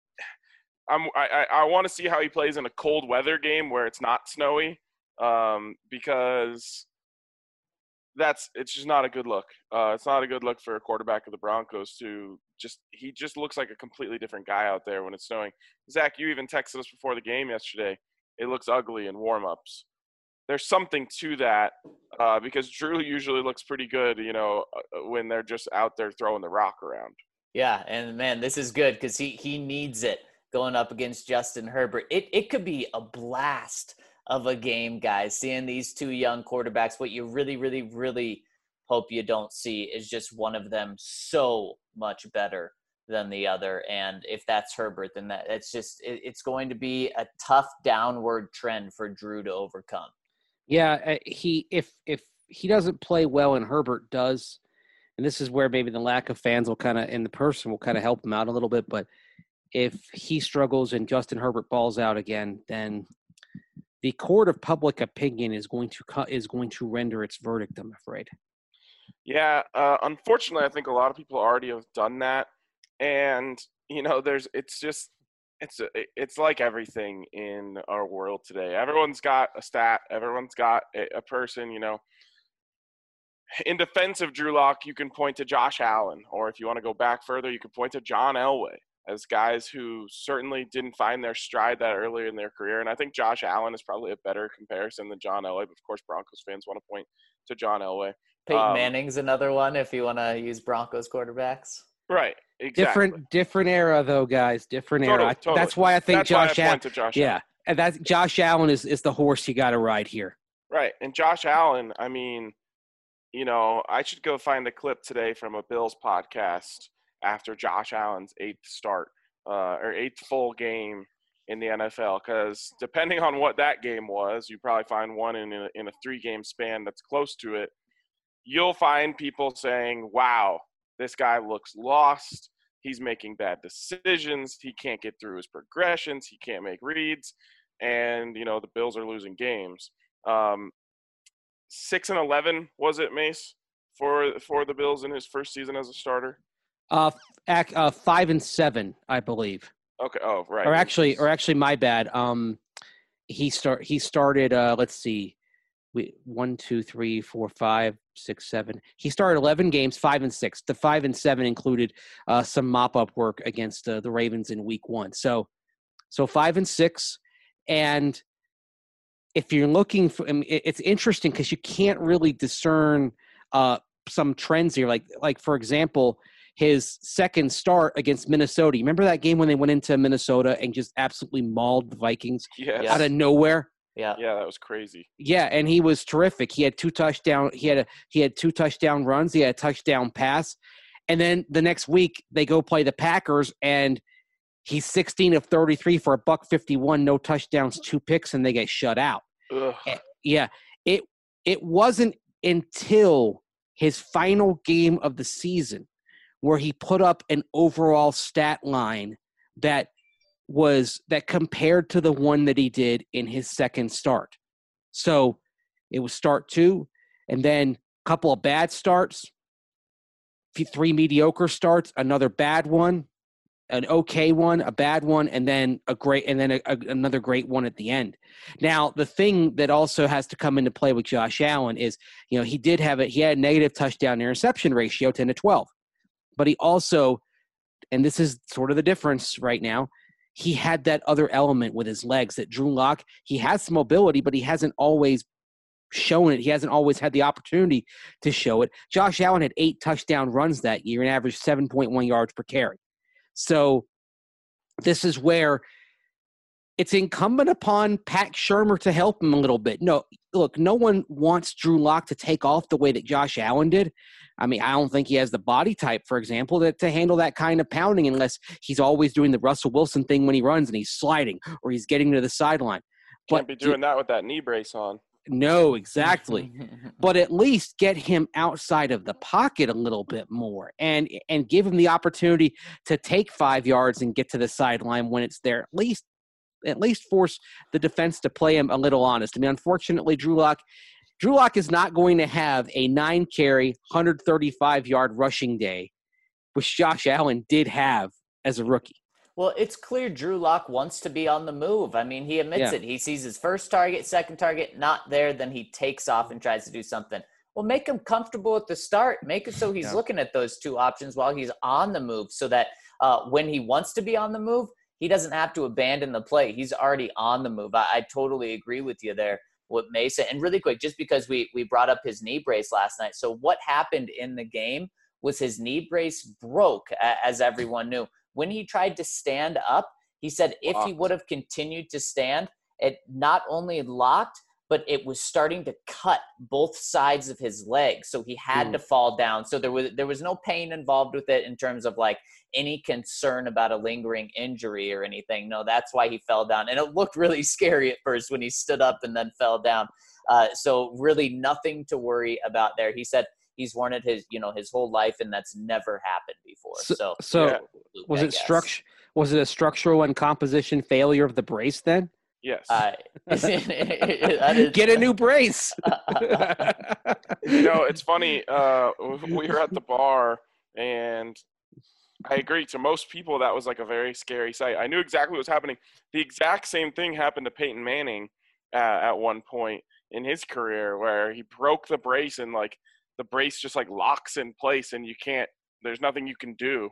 I want to see how he plays in a cold weather game where it's not snowy, because it's just not a good look. It's not a good look for a quarterback of the Broncos he just looks like a completely different guy out there when it's snowing. Zach, you even texted us before the game yesterday. It looks ugly in warm-ups. There's something to that, because Drew usually looks pretty good, when they're just out there throwing the rock around. Yeah, and man, this is good because he needs it going up against Justin Herbert. It could be a blast of a game, guys, seeing these two young quarterbacks. What you really, really, really hope you don't see is just one of them so much better than the other. And if that's Herbert, then it's going to be a tough downward trend for Drew to overcome. Yeah, if he doesn't play well and Herbert does, and this is where maybe the lack of fans will kind of, and the person will kind of help him out a little bit, but if he struggles and Justin Herbert balls out again, then the court of public opinion is going to render its verdict, I'm afraid. Yeah, unfortunately, I think a lot of people already have done that, and it's like everything in our world today. Everyone's got a stat. Everyone's got a person. In defense of Drew Lock, you can point to Josh Allen, or if you want to go back further, you can point to John Elway as guys who certainly didn't find their stride that early in their career. And I think Josh Allen is probably a better comparison than John Elway. But of course, Broncos fans want to point to John Elway. Peyton Manning's another one if you want to use Broncos quarterbacks. Right. Exactly. Different era though, guys. Different era. Totally. That's why I think Josh Allen. Yeah, and that's Josh Allen is the horse you got to ride here. Right, and Josh Allen. I mean, I should go find a clip today from a Bills podcast after Josh Allen's 8th start or 8th full game in the NFL, because depending on what that game was, you probably find one in a 3-game span that's close to it. You'll find people saying, "Wow, this guy looks lost. He's making bad decisions. He can't get through his progressions. He can't make reads." And, the Bills are losing games. 6-11, was it, Mace, for the Bills in his first season as a starter? 5-7, I believe. Okay. Oh, right. Or actually, my bad. He started. Let's see. 1, 2, 3, 4, 5, 6, 7. He started 11 games, 5-6. The 5-7 included some mop-up work against the Ravens in Week 1. So 5-6, and if you're looking for, it's interesting because you can't really discern some trends here. Like for example, his second start against Minnesota. You remember that game when they went into Minnesota and just absolutely mauled the Vikings out of nowhere? Yeah, that was crazy. Yeah, and he was terrific. He had 2 touchdown. He had 2 touchdown runs. He had a touchdown pass, and then the next week they go play the Packers, and He's 16 of 33 for a $151, no touchdowns, 2 picks, and they get shut out. Ugh. Yeah, it wasn't until his final game of the season where he put up an overall stat line that compared to the one that he did in his second start. So it was start 2, and then a couple of bad starts, 3 mediocre starts, another bad one, an okay one, a bad one, and then another great one at the end. Now, the thing that also has to come into play with Josh Allen is, he had a negative touchdown interception ratio, 10-12, but he also, and this is sort of the difference right now, he had that other element with his legs that Drew Lock, he has some mobility, but he hasn't always shown it. He hasn't always had the opportunity to show it. Josh Allen had 8 touchdown runs that year and averaged 7.1 yards per carry. So this is where it's incumbent upon Pat Shurmur to help him a little bit. No one wants Drew Lock to take off the way that Josh Allen did. I mean, I don't think he has the body type, for example, to handle that kind of pounding unless he's always doing the Russell Wilson thing when he runs and he's sliding or he's getting to the sideline. Can't be doing that with that knee brace on. No, exactly. But at least get him outside of the pocket a little bit more and give him the opportunity to take 5 yards and get to the sideline when it's there. At least force the defense to play him a little honest. I mean, unfortunately, Drew Lock is not going to have a 9-carry, 135-yard rushing day, which Josh Allen did have as a rookie. Well, it's clear Drew Lock wants to be on the move. I mean, he admits it. He sees his first target, second target, not there, then he takes off and tries to do something. Well, make him comfortable at the start. Make it so he's looking at those 2 options while he's on the move so that when he wants to be on the move, he doesn't have to abandon the play. He's already on the move. I totally agree with you there with Mesa. And really quick, just because we brought up his knee brace last night. So what happened in the game was his knee brace broke, as everyone knew. When he tried to stand up, he said if he would have continued to stand, it not only locked, but it was starting to cut both sides of his legs. So he had to fall down. So there was no pain involved with it in terms of like any concern about a lingering injury or anything. No, that's why he fell down. And it looked really scary at first when he stood up and then fell down. So really nothing to worry about there. He said he's worn it his whole life, and that's never happened before. So was it a structural and composition failure of the brace then? Yes. Get a new brace. It's funny. We were at the bar, and I agree. To most people, that was like a very scary sight. I knew exactly what was happening. The exact same thing happened to Peyton Manning at one point in his career, where he broke the brace and like the brace just like locks in place, and there's nothing you can do.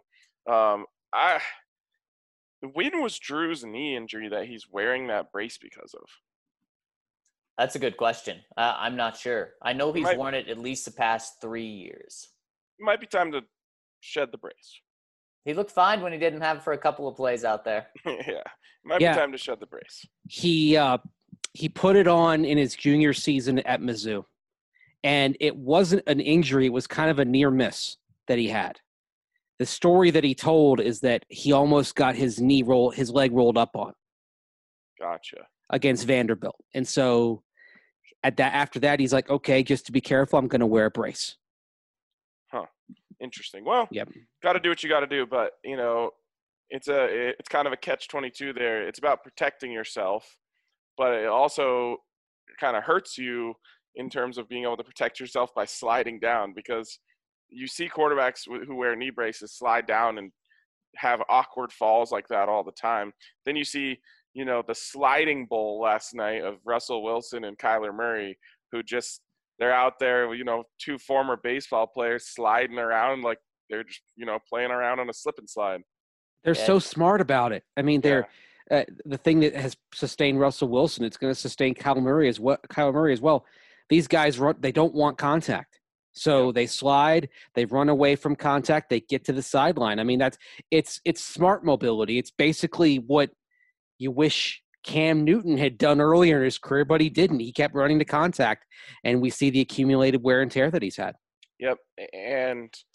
When was Drew's knee injury that he's wearing that brace because of? That's a good question. I'm not sure. I know he's worn it at least the past 3 years. It might be time to shed the brace. He looked fine when he didn't have it for a couple of plays out there. It might be time to shed the brace. He put it on in his junior season at Mizzou, and it wasn't an injury. It was kind of a near miss that he had. The story that he told is that he almost got his leg rolled up on. Gotcha. Against Vanderbilt. And so after that, he's like, okay, just to be careful, I'm going to wear a brace. Huh. Interesting. Well, got to do what you got to do, but it's kind of a catch-22 there. It's about protecting yourself, but it also kind of hurts you in terms of being able to protect yourself by sliding down, because you see quarterbacks who wear knee braces slide down and have awkward falls like that all the time. Then you see, the sliding bowl last night of Russell Wilson and Kyler Murray, who they're out there, 2 former baseball players sliding around like they're just, playing around on a slip and slide. They're so smart about it. I mean, they're the thing that has sustained Russell Wilson, it's going to sustain Kyler Murray as well. These guys they don't want contact. So they slide, they run away from contact, they get to the sideline. I mean, it's smart mobility. It's basically what you wish Cam Newton had done earlier in his career, but he didn't. He kept running to contact, and we see the accumulated wear and tear that he's had. Yep, and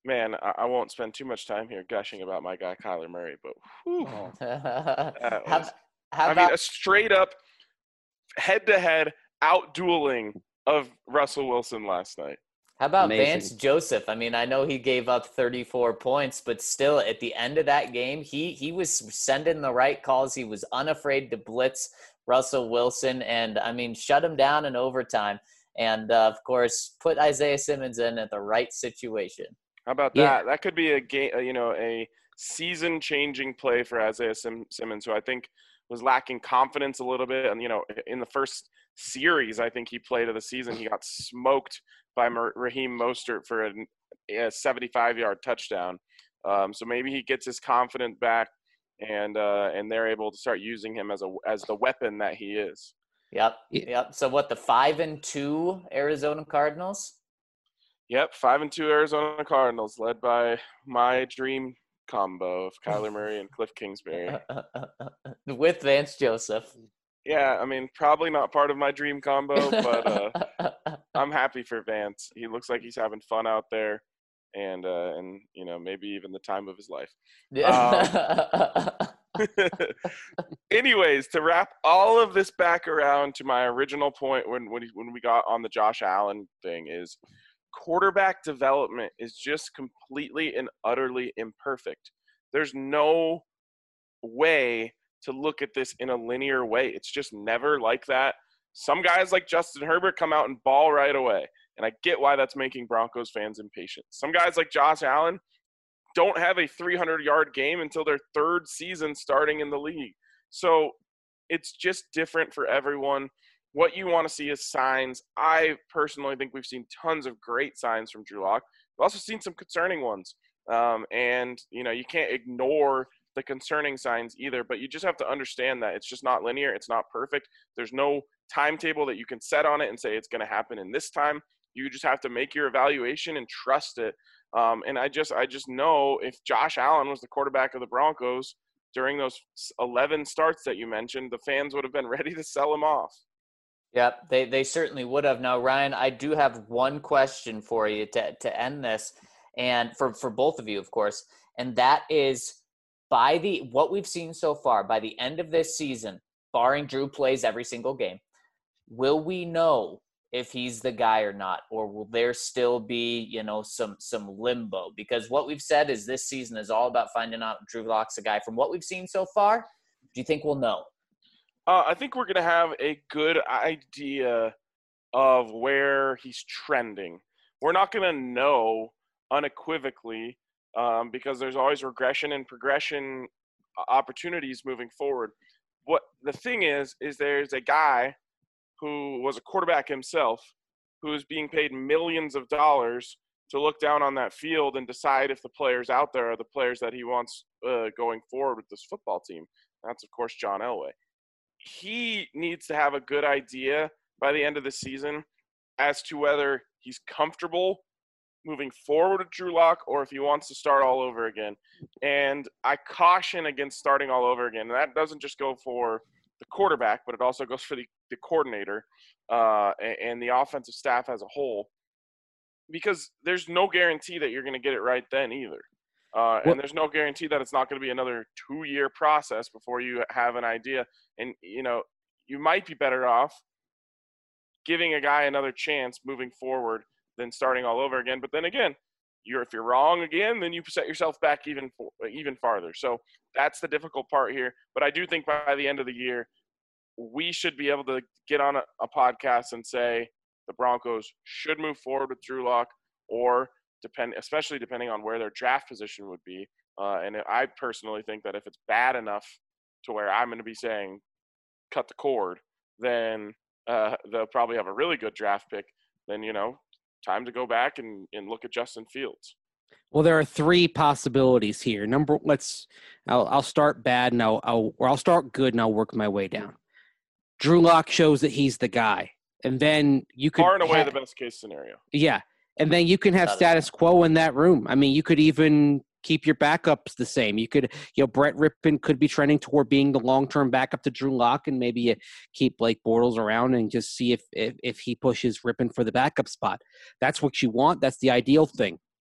Man, I won't spend too much time here gushing about my guy Kyler Murray, but whew, that how, was, how I mean, about a straight up head-to-head out-dueling of Russell Wilson last night. How about Amazing. Vance Joseph? I mean, I know he gave up 34 points, but still, at the end of that game, he was sending the right calls. He was unafraid to blitz Russell Wilson, and I mean, shut him down in overtime, and of course, put Isaiah Simmons in at the right situation. How about Yeah. that? That could be a game, a season-changing play for Isaiah Simmons, who I think was lacking confidence a little bit. And in the first series, I think he played of the season, he got smoked by Raheem Mostert for a 75-yard touchdown. So maybe he gets his confidence back, and they're able to start using him as the weapon that he is. Yep. So what, the 5-2 Arizona Cardinals? Yep, 5-2 Arizona Cardinals, led by my dream combo of Kyler Murray and Cliff Kingsbury. With Vance Joseph. Yeah, I mean, probably not part of my dream combo, but I'm happy for Vance. He looks like he's having fun out there, and maybe even the time of his life. Anyways, to wrap all of this back around to my original point when we got on the Josh Allen thing is quarterback development is just completely and utterly imperfect. There's no way to look at this in a linear way. It's just never like that. Some guys like Justin Herbert come out and ball right away, and I get why that's making Broncos fans impatient. Some guys like Josh Allen don't have a 300-yard game until their third season starting in the league. So it's just different for everyone. What you want to see is signs. I personally think we've seen tons of great signs from Drew Lock. We've also seen some concerning ones. You can't ignore the concerning signs either, but you just have to understand that it's just not linear. It's not perfect. There's no timetable that you can set on it and say it's going to happen in this time. You just have to make your evaluation and trust it. And I just know if Josh Allen was the quarterback of the Broncos during those 11 starts that you mentioned, the fans would have been ready to sell him off. Yep, they certainly would have. Now, Ryan, I do have one question for you to end this, and for both of you, of course, and that is what we've seen so far, by the end of this season, barring Drew plays every single game, will we know if he's the guy or not, or will there still be, some limbo? Because what we've said is this season is all about finding out if Drew Lock's the guy. From what we've seen so far, do you think we'll know? I think we're going to have a good idea of where he's trending. We're not going to know unequivocally because there's always regression and progression opportunities moving forward. What the thing is there's a guy who was a quarterback himself who is being paid millions of dollars to look down on that field and decide if the players out there are the players that he wants going forward with this football team. That's, of course, John Elway. He needs to have a good idea by the end of the season as to whether he's comfortable moving forward with Drew Lock or if he wants to start all over again. And I caution against starting all over again. And that doesn't just go for the quarterback, but it also goes for the coordinator and the offensive staff as a whole, because there's no guarantee that you're going to get it right then either. And there's no guarantee that it's not going to be another 2-year process before you have an idea. And, you might be better off giving a guy another chance moving forward than starting all over again. But then again, if you're wrong again, then you set yourself back even farther. So that's the difficult part here. But I do think by the end of the year, we should be able to get on a podcast and say the Broncos should move forward with Drew Lock, or especially depending on where their draft position would be. And I personally think that if it's bad enough to where I'm going to be saying cut the cord, then they'll probably have a really good draft pick. Then, time to go back and look at Justin Fields. Well, there are 3 possibilities here. I'll start bad and I'll start good and I'll work my way down. Drew Lock shows that he's the guy, and then you could far and away the best case scenario. Yeah, and then you can have status quo in that room. I mean, you could even keep your backups the same. You could, Brett Rippon could be trending toward being the long-term backup to Drew Lock, and maybe you keep Blake Bortles around and just see if he pushes Rippon for the backup spot. That's what you want. That's the ideal thing.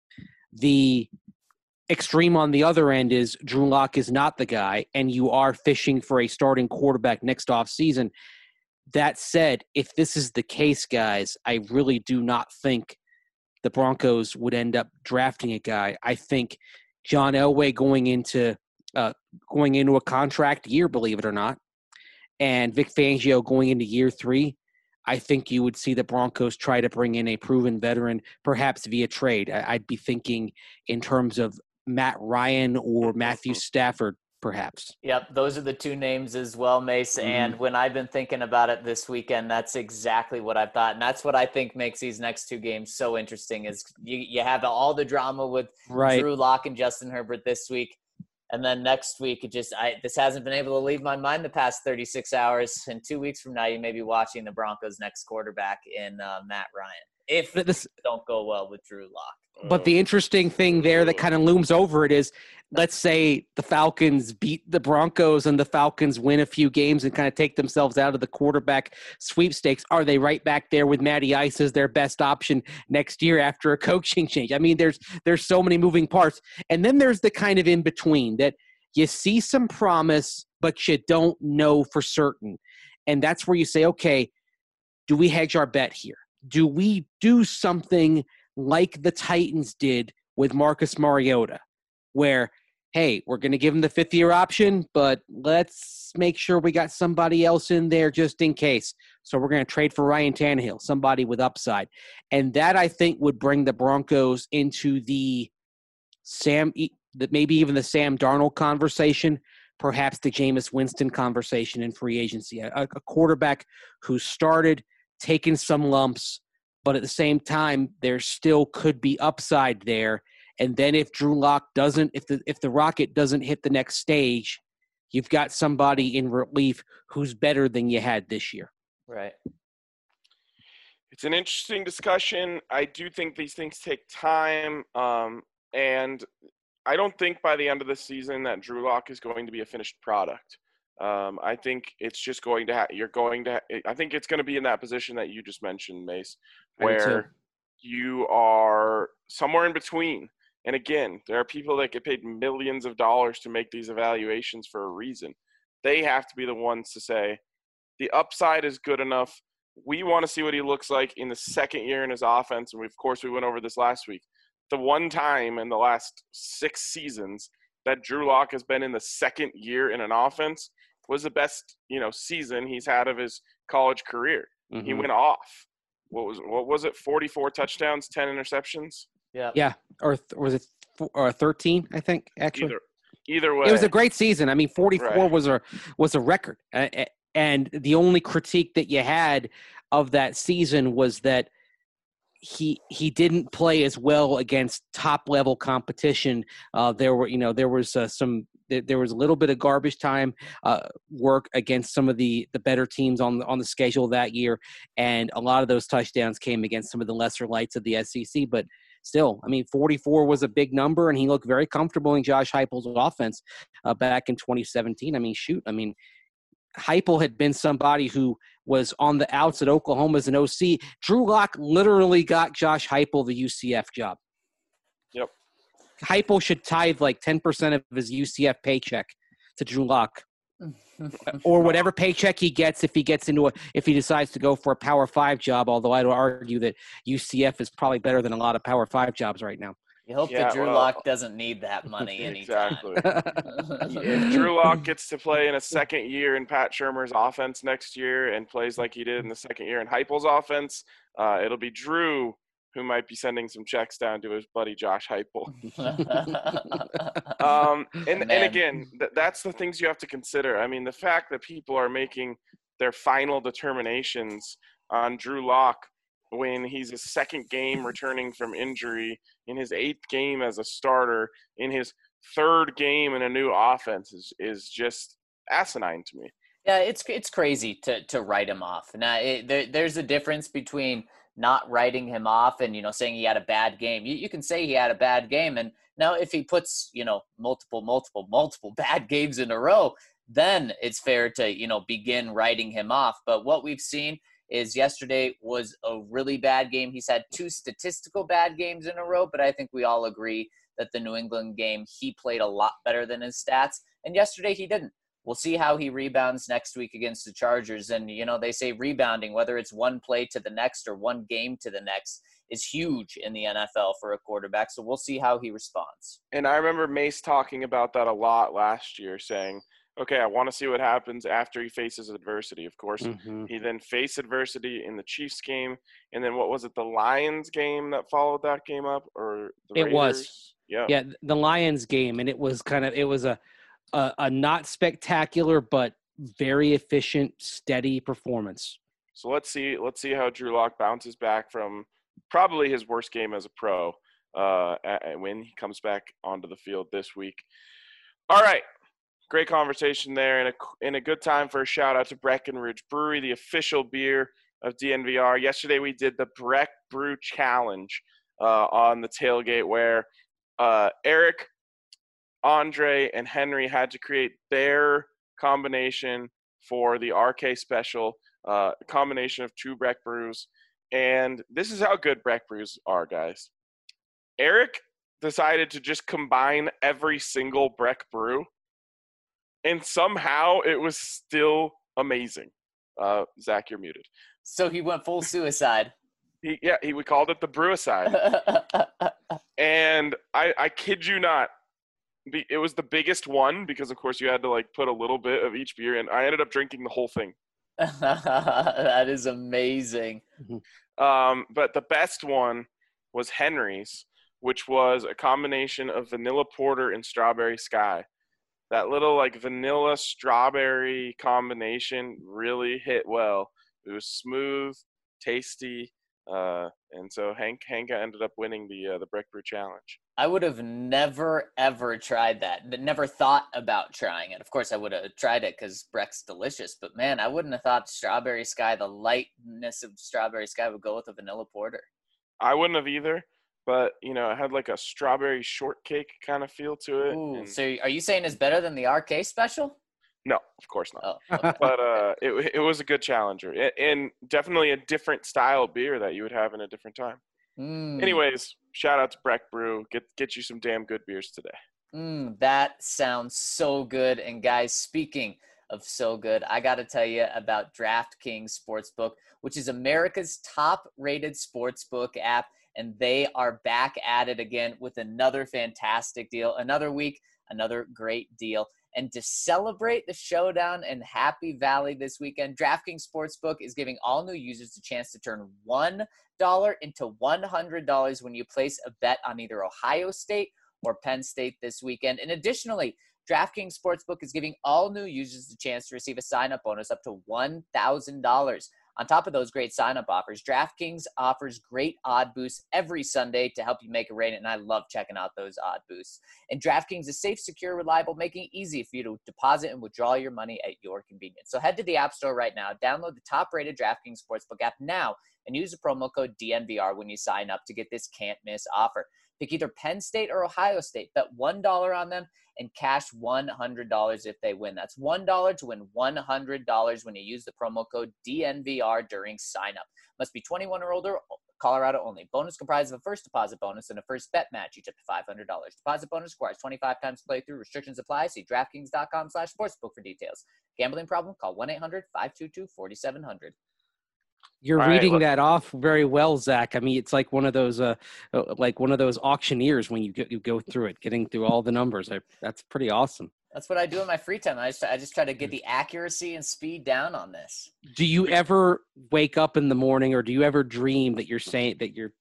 The extreme on the other end is Drew Lock is not the guy, and you are fishing for a starting quarterback next offseason. That said, if this is the case, guys, I really do not think the Broncos would end up drafting a guy. I think John Elway going into a contract year, believe it or not, and Vic Fangio going into year 3, I think you would see the Broncos try to bring in a proven veteran, perhaps via trade. I'd be thinking in terms of Matt Ryan or Matthew Stafford, perhaps. Yep, those are the two names as well, Mace. Mm-hmm. And when I've been thinking about it this weekend, that's exactly what I've thought. And that's what I think makes these next two games so interesting is you have all the drama with Drew Lock and Justin Herbert this week. And then next week, this hasn't been able to leave my mind the past 36 hours. And 2 weeks from now, you may be watching the Broncos' next quarterback in Matt Ryan, if this don't go well with Drew Lock. But the interesting thing there that kind of looms over it is, let's say the Falcons beat the Broncos and the Falcons win a few games and kind of take themselves out of the quarterback sweepstakes. Are they right back there with Matty Ice as their best option next year after a coaching change? I mean, there's so many moving parts. And then there's the kind of in between that you see some promise, but you don't know for certain. And that's where you say, okay, do we hedge our bet here? Do we do something like the Titans did with Marcus Mariota, where, hey, we're going to give him the 5th-year option, but let's make sure we got somebody else in there just in case. So we're going to trade for Ryan Tannehill, somebody with upside. And that, I think, would bring the Broncos into maybe even the Sam Darnold conversation, perhaps the Jameis Winston conversation in free agency. A quarterback who started taking some lumps, but at the same time, there still could be upside there. And then if Drew Lock if the Rocket doesn't hit the next stage, you've got somebody in relief who's better than you had this year. Right. It's an interesting discussion. I do think these things take time. And I don't think by the end of the season that Drew Lock is going to be a finished product. I think it's just going to I think it's going to be in that position that you just mentioned, Mace, where you are somewhere in between. And again, there are people that get paid millions of dollars to make these evaluations for a reason. They have to be the ones to say, the upside is good enough. We want to see what he looks like in the second year in his offense. And we went over this last week. The one time in the last 6 seasons that Drew Lock has been in the second year in an offense was the best, season he's had of his college career. Mm-hmm. He went off. What was it? 44 touchdowns, 10 interceptions. Yeah. Yeah. Or was it 13? I think actually. Either way, it was a great season. I mean, 44 was a record. And the only critique that you had of that season was that he didn't play as well against top level competition. There was a little bit of garbage time work against some of the better teams on the schedule that year, and a lot of those touchdowns came against some of the lesser lights of the SEC. But still, I mean, 44 was a big number, and he looked very comfortable in Josh Heupel's offense back in 2017. I mean, Heupel had been somebody who was on the outs at Oklahoma as an OC. Drew Lock literally got Josh Heupel the UCF job. Yep. Heupel should tithe like 10% of his UCF paycheck to Drew Lock, or whatever paycheck he gets if he decides to go for a Power 5 job. Although I'd argue that UCF is probably better than a lot of Power 5 jobs right now. You hope that Drew Lock doesn't need that money anytime. Exactly. If Drew Lock gets to play in a second year in Pat Shurmur's offense next year and plays like he did in the second year in Heupel's offense, it'll be Drew who might be sending some checks down to his buddy Josh Heupel. And again, that's the things you have to consider. I mean, the fact that people are making their final determinations on Drew Lock when he's his second game returning from injury, in his 8th game as a starter, in his 3rd game in a new offense is just asinine to me. Yeah, it's crazy to write him off. Now, there's a difference between not writing him off and, saying he had a bad game. You can say he had a bad game. And now if he puts, multiple bad games in a row, then it's fair to, begin writing him off. But what we've seen is yesterday was a really bad game. He's had 2 statistical bad games in a row, but I think we all agree that the New England game, he played a lot better than his stats, and yesterday he didn't. We'll see how he rebounds next week against the Chargers. And, they say rebounding, whether it's one play to the next or one game to the next, is huge in the NFL for a quarterback. So we'll see how he responds. And I remember Mace talking about that a lot last year, saying, okay, I want to see what happens after he faces adversity. Of course, he then faced adversity in the Chiefs game. And then what was it, the Lions game that followed that game up? Or the Raiders? It was. Yeah, the Lions game. And it was a not spectacular, but very efficient, steady performance. So let's see how Drew Lock bounces back from probably his worst game as a pro when he comes back onto the field this week. All right, great conversation there, and a good time for a shout out to Breckenridge Brewery, the official beer of DNVR. Yesterday we did the Breck Brew Challenge on the tailgate, where Eric, Andre, and Henry had to create their combination for the RK special, combination of 2 Breck brews. And this is how good Breck brews are, guys. Eric decided to just combine every single Breck brew, and somehow it was still amazing. Zach, you're muted. So he went full suicide. We called it the Brewicide. And I kid you not, it was the biggest one because, of course, you had to put a little bit of each beer, and I ended up drinking the whole thing. That is amazing. But the best one was Henry's, which was a combination of vanilla porter and strawberry sky. That little vanilla strawberry combination really hit well. It was smooth, tasty, and so Hanka ended up winning the Breck Brew Challenge. I would have never, ever tried that. Never thought about trying it. Of course, I would have tried it because Breck's delicious. But, man, I wouldn't have thought Strawberry Sky, the lightness of Strawberry Sky, would go with a vanilla porter. I wouldn't have either. But, it had a strawberry shortcake kind of feel to it. Ooh, so are you saying it's better than the RK special? No, of course not. Oh, okay. But it was a good challenger. And definitely a different style beer that you would have in a different time. Anyways, shout out to Breck Brew. Get you some damn good beers today. That sounds so good. And guys, speaking of so good, I got to tell you about DraftKings Sportsbook, which is America's top-rated sportsbook app. And they are back at it again with another fantastic deal. Another week, another great deal. And to celebrate the showdown in Happy Valley this weekend, DraftKings Sportsbook is giving all new users a chance to turn $1 into $100 when you place a bet on either Ohio State or Penn State this weekend. And additionally, DraftKings Sportsbook is giving all new users the chance to receive a sign-up bonus up to $1,000. On top of those great sign-up offers, DraftKings offers great odd boosts every Sunday to help you make a rating, and I love checking out those odd boosts. And DraftKings is safe, secure, reliable, making it easy for you to deposit and withdraw your money at your convenience. So head to the App Store right now, download the top-rated DraftKings Sportsbook app now, and use the promo code DNVR when you sign up to get this can't-miss offer. Pick either Penn State or Ohio State. Bet $1 on them and cash $100 if they win. That's $1 to win $100 when you use the promo code DNVR during sign-up. Must be 21 or older, Colorado only. Bonus comprised of a first deposit bonus and a first bet match, each up to $500. Deposit bonus requires 25 times playthrough. Restrictions apply. See DraftKings.com/sportsbook for details. Gambling problem? Call 1-800-522-4700. You're reading that off very well, Zach. I mean, it's like one of those auctioneers when you go through it, getting through all the numbers. That's pretty awesome. That's what I do in my free time. I just try to get the accuracy and speed down on this. Do you ever wake up in the morning, or do you ever dream that you're saying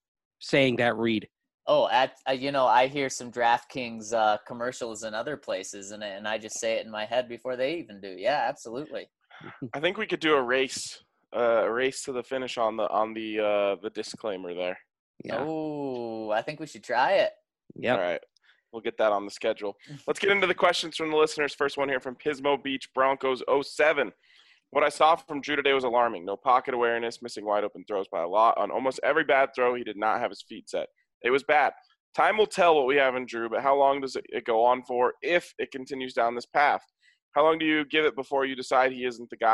that read? Oh, I hear some DraftKings commercials in other places, and I just say it in my head before they even do. Yeah, absolutely. I think we could do a race to the finish on the disclaimer there. Yeah. Oh, I think we should try it. Yeah. All right. We'll get that on the schedule. Let's get into the questions from the listeners. First one here from Pismo Beach Broncos 07. What I saw from Drew today was alarming. No pocket awareness, missing wide open throws by a lot. On almost every bad throw, he did not have his feet set. It was bad. Time will tell what we have in Drew, but how long does it go on for if it continues down this path? How long do you give it before you decide he isn't the guy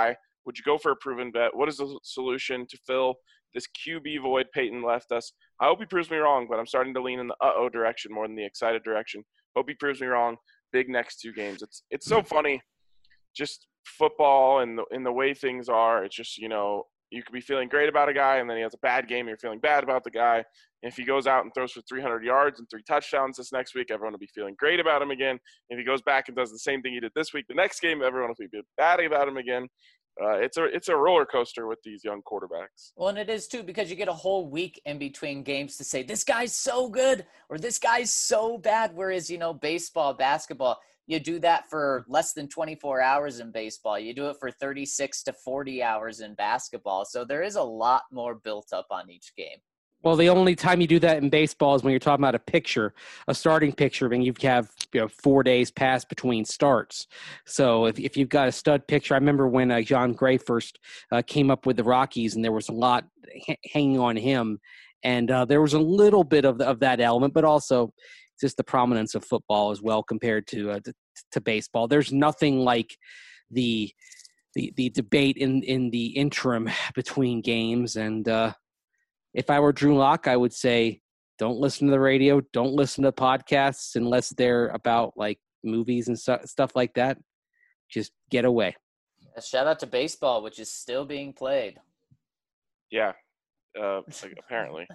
Would you go for a proven bet? What is the solution to fill this QB void Peyton left us? I hope he proves me wrong, but I'm starting to lean in the uh-oh direction more than the excited direction. Hope he proves me wrong. Big next 2 games. It's so funny, just football and the way things are. It's just, you know, you could be feeling great about a guy, and then he has a bad game. You're feeling bad about the guy. And if he goes out and throws for 300 yards and 3 touchdowns this next week, everyone will be feeling great about him again. If he goes back and does the same thing he did this week, the next game, everyone will be bad about him again. It's a roller coaster with these young quarterbacks. Well, and it is too, because you get a whole week in between games to say this guy's so good or this guy's so bad. Whereas, you know, baseball, basketball, you do that for less than 24 hours in baseball. You do it for 36 to 40 hours in basketball. So there is a lot more built up on each game. Well, the only time you do that in baseball is when you're talking about a starting pitcher, and you have 4 days pass between starts. So if you've got a stud pitcher, I remember when John Gray first came up with the Rockies, and there was a lot hanging on him, and there was a little bit of that element, but also just the prominence of football as well compared to baseball. There's nothing like the debate in the interim between games, and if I were Drew Lock, I would say, don't listen to the radio, don't listen to podcasts unless they're about like movies and stuff like that. Just get away. Shout out to baseball, which is still being played. Yeah, apparently.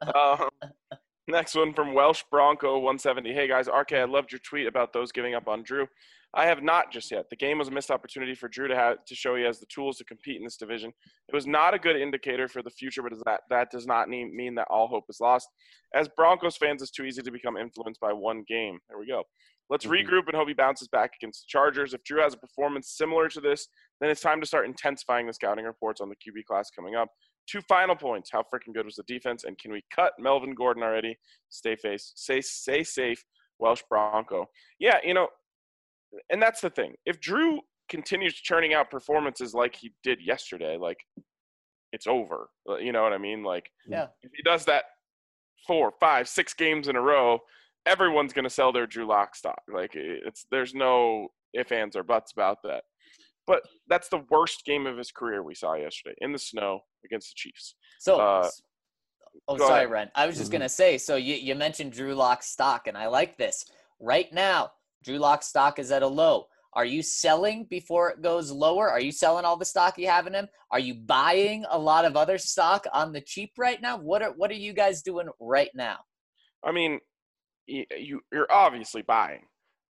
Next one from Welsh Bronco 170. Hey guys, RK, I loved your tweet about those giving up on Drew. I have not just yet. The game was a missed opportunity for Drew to show he has the tools to compete in this division. It was not a good indicator for the future, but that does not mean that all hope is lost. As Broncos fans, it's too easy to become influenced by one game. There we go. Let's regroup and hope he bounces back against the Chargers. If Drew has a performance similar to this, then it's time to start intensifying the scouting reports on the QB class coming up. 2 final points. How freaking good was the defense? And can we cut Melvin Gordon already? Stay safe, Welsh Bronco. Yeah, you know, and that's the thing. If Drew continues churning out performances like he did yesterday, like, it's over. You know what I mean? Like, yeah. If he does that 4, 5, 6 games in a row, everyone's going to sell their Drew Lock stock. Like, there's no ifs, ands, or buts about that. But that's the worst game of his career we saw yesterday in the snow against the Chiefs. So, sorry, ahead. Ren. I was just going to say, so you mentioned Drew Lock stock, and I like this. Right now, Drew Lock stock is at a low. Are you selling before it goes lower? Are you selling all the stock you have in him? Are you buying a lot of other stock on the cheap right now? What are you guys doing right now? I mean, you're obviously buying,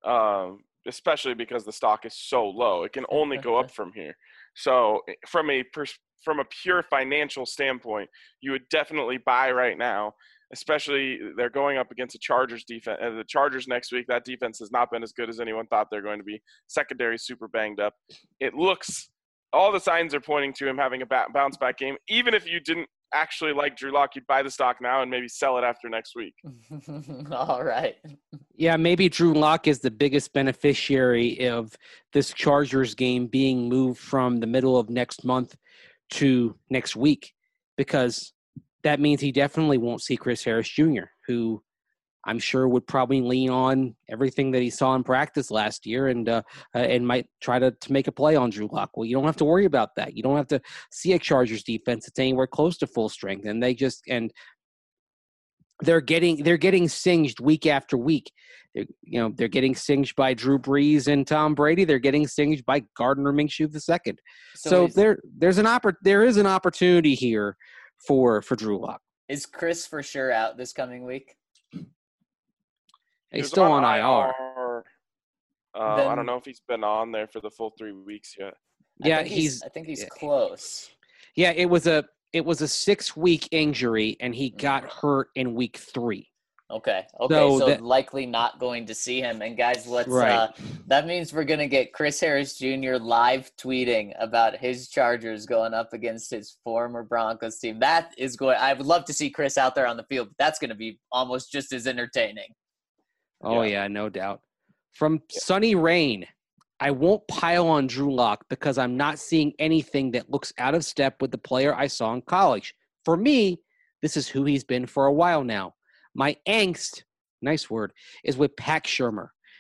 especially because the stock is so low. It can only go up from here. So from a pure financial standpoint, you would definitely buy right now. Especially they're going up against the Chargers defense. The Chargers next week, that defense has not been as good as anyone thought they're going to be. Secondary super banged up. It looks – all the signs are pointing to him having a bounce-back game. Even if you didn't actually like Drew Lock, you'd buy the stock now and maybe sell it after next week. All right. Yeah, maybe Drew Lock is the biggest beneficiary of this Chargers game being moved from the middle of next month to next week, because – that means he definitely won't see Chris Harris Jr., who I'm sure would probably lean on everything that he saw in practice last year and might try to make a play on Drew Lock. Well, you don't have to worry about that. You don't have to see a Chargers defense that's anywhere close to full strength, and they're getting singed week after week. They're getting singed by Drew Brees and Tom Brady. They're getting singed by Gardner Minshew II. So there is an opportunity here for Drew Lock. Is Chris for sure out this coming week? He's still on IR. I don't know if he's been on there for the full 3 weeks yet. I think he's close. Yeah, it was a 6-week injury, and he got hurt in week 3. Okay. So likely not going to see him. And guys, that means we're going to get Chris Harris Jr. live tweeting about his Chargers going up against his former Broncos team. I would love to see Chris out there on the field, but that's going to be almost just as entertaining. Oh yeah, no doubt. From Sunny Rain, I won't pile on Drew Lock because I'm not seeing anything that looks out of step with the player I saw in college. For me, this is who he's been for a while now. My angst, nice word, is with Pat Shurmur.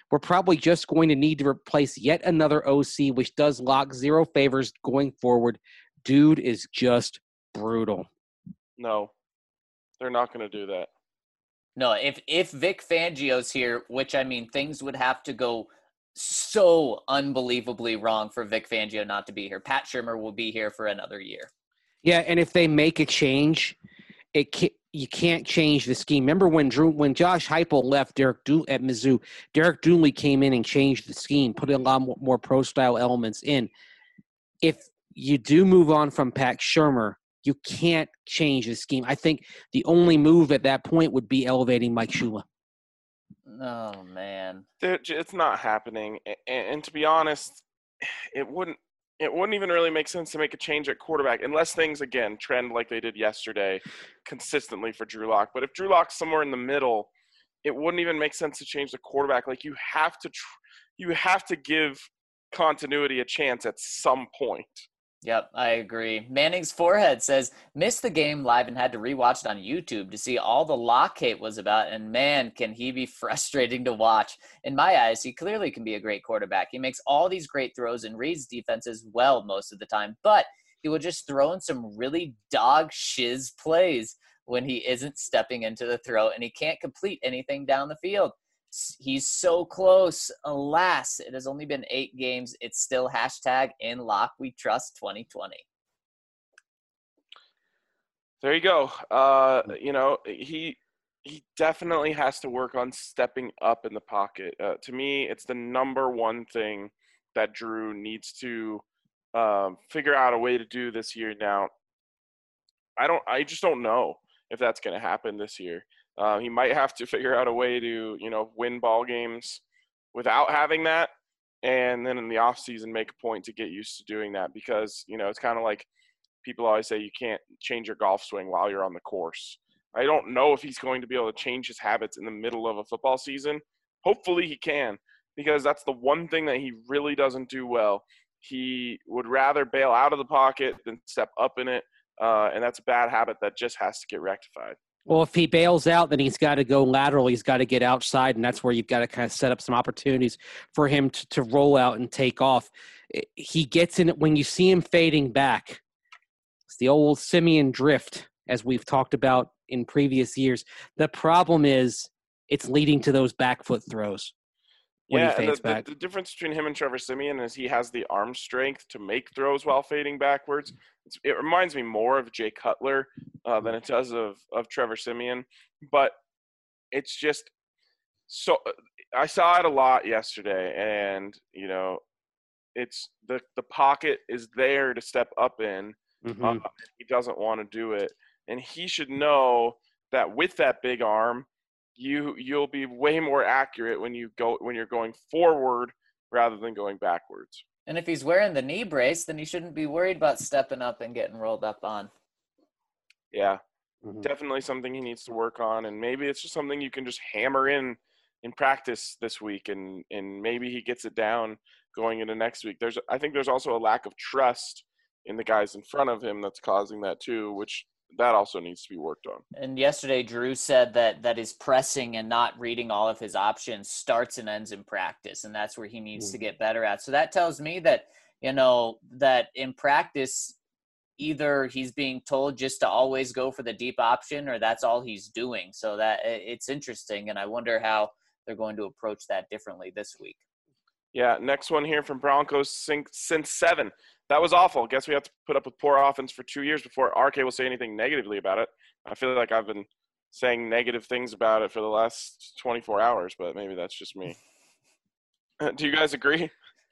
we're probably just going to need to replace yet another OC, which does lock zero favors going forward. Dude is just brutal. No, they're not going to do that. No, if Vic Fangio's here, which I mean, things would have to go so unbelievably wrong for Vic Fangio not to be here. Pat Shurmur will be here for another year. Yeah, and if they make a change, you can't change the scheme. Remember when Josh Heupel left at Mizzou, Derek Dooley came in and changed the scheme, put a lot more pro-style elements in. If you do move on from Pat Shurmur, you can't change the scheme. I think the only move at that point would be elevating Mike Shula. Oh, man. It's not happening. And to be honest, it wouldn't even really make sense to make a change at quarterback unless things, again, trend like they did yesterday consistently for Drew Lock. But if Drew Lock's somewhere in the middle, it wouldn't even make sense to change the quarterback. Like, you have to give continuity a chance at some point. Yep, I agree. Manning's forehead says, missed the game live and had to rewatch it on YouTube to see all the Lock hate was about, and man, can he be frustrating to watch. In my eyes, he clearly can be a great quarterback. He makes all these great throws and reads defenses well most of the time, but he will just throw in some really dog shiz plays when he isn't stepping into the throw, and he can't complete anything down the field. He's so close. Alas, it has only been 8 games. It's still #in Lock We Trust 2020. There you go. He definitely has to work on stepping up in the pocket. To me, it's the number one thing that Drew needs to figure out a way to do this year. Now, I just don't know if that's going to happen this year. He might have to figure out a way to, win ball games without having that, and then in the offseason make a point to get used to doing that because, it's kind of like people always say you can't change your golf swing while you're on the course. I don't know if he's going to be able to change his habits in the middle of a football season. Hopefully he can, because that's the one thing that he really doesn't do well. He would rather bail out of the pocket than step up in it, and that's a bad habit that just has to get rectified. Well, if he bails out, then he's got to go lateral. He's got to get outside, and that's where you've got to kind of set up some opportunities for him to roll out and take off. He gets in it when you see him fading back. It's the old Simeon drift, as we've talked about in previous years. The problem is it's leading to those back foot throws. Yeah, and the difference between him and Trevor Siemian is he has the arm strength to make throws while fading backwards. It reminds me more of Jay Cutler than it does of Trevor Siemian. But it's just so – I saw it a lot yesterday, and, it's the pocket is there to step up in. Mm-hmm. He doesn't want to do it. And he should know that with that big arm – you'll be way more accurate when you're going forward rather than going backwards. And if he's wearing the knee brace, then he shouldn't be worried about stepping up and getting rolled up on. Yeah, Definitely something he needs to work on, and maybe it's just something you can just hammer in practice this week, and maybe he gets it down going into next week. I think there's also a lack of trust in the guys in front of him that's causing that too, which that also needs to be worked on. And yesterday, Drew said that his pressing and not reading all of his options starts and ends in practice, and that's where he needs to get better at. So that tells me that, that in practice, either he's being told just to always go for the deep option or that's all he's doing. So that it's interesting, and I wonder how they're going to approach that differently this week. Yeah, next one here from Broncos since 7. That was awful. Guess we have to put up with poor offense for 2 years before RK will say anything negatively about it. I feel like I've been saying negative things about it for the last 24 hours, but maybe that's just me. Do you guys agree?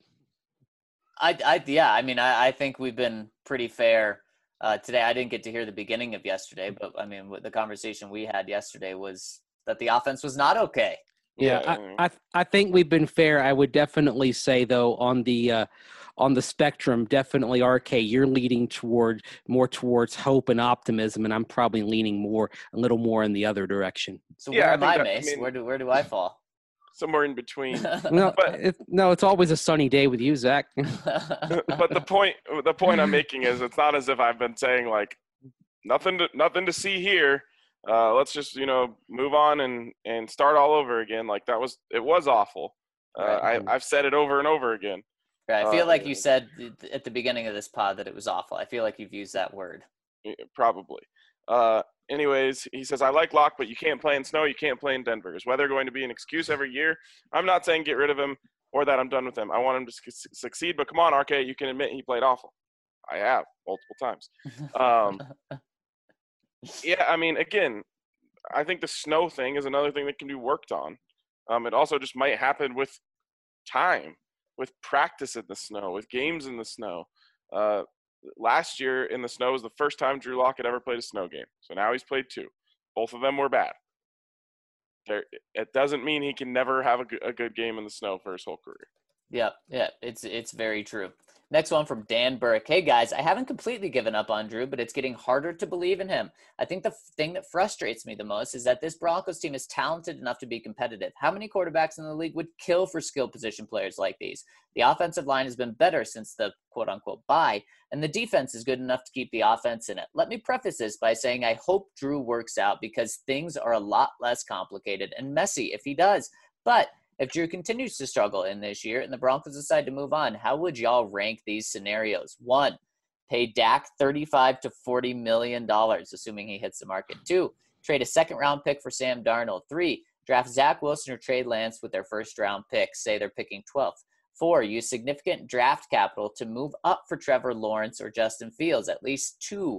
I think we've been pretty fair today. I didn't get to hear the beginning of yesterday, but the conversation we had yesterday was that the offense was not okay. Yeah, I think we've been fair. I would definitely say, though, on the spectrum, definitely, RK, you're leading more towards hope and optimism, and I'm probably leaning a little more in the other direction. So where am I, Mace? Where do I fall? Somewhere in between. No, it's always a sunny day with you, Zach. But the point I'm making is it's not as if I've been saying like nothing to see here. Let's just move on and start all over again. Like it was awful. I've said it over and over again. Right. I feel like you said at the beginning of this pod that it was awful. I feel like you've used that word. Probably. Anyways, he says, I like Locke, but you can't play in snow. You can't play in Denver. Is weather going to be an excuse every year? I'm not saying get rid of him or that I'm done with him. I want him to succeed, but come on, RK, you can admit he played awful. I have multiple times. Yeah, I mean, again, I think the snow thing is another thing that can be worked on. It also just might happen with time, with practice in the snow, with games in the snow. Last year in the snow was the first time Drew Lock had ever played a snow game. So now he's played 2. Both of them were bad. It doesn't mean he can never have a good game in the snow for his whole career. Yeah, it's very true. Next one from Dan Burke. Hey, guys, I haven't completely given up on Drew, but it's getting harder to believe in him. I think the thing that frustrates me the most is that this Broncos team is talented enough to be competitive. How many quarterbacks in the league would kill for skill position players like these? The offensive line has been better since the quote-unquote bye, and the defense is good enough to keep the offense in it. Let me preface this by saying I hope Drew works out because things are a lot less complicated and messy if he does. But if Drew continues to struggle in this year and the Broncos decide to move on, how would y'all rank these scenarios? 1, pay Dak $35 to $40 million, assuming he hits the market. 2, trade a second-round pick for Sam Darnold. 3, draft Zach Wilson or trade Lance with their first-round pick. Say they're picking 12th. 4, use significant draft capital to move up for Trevor Lawrence or Justin Fields, at least 2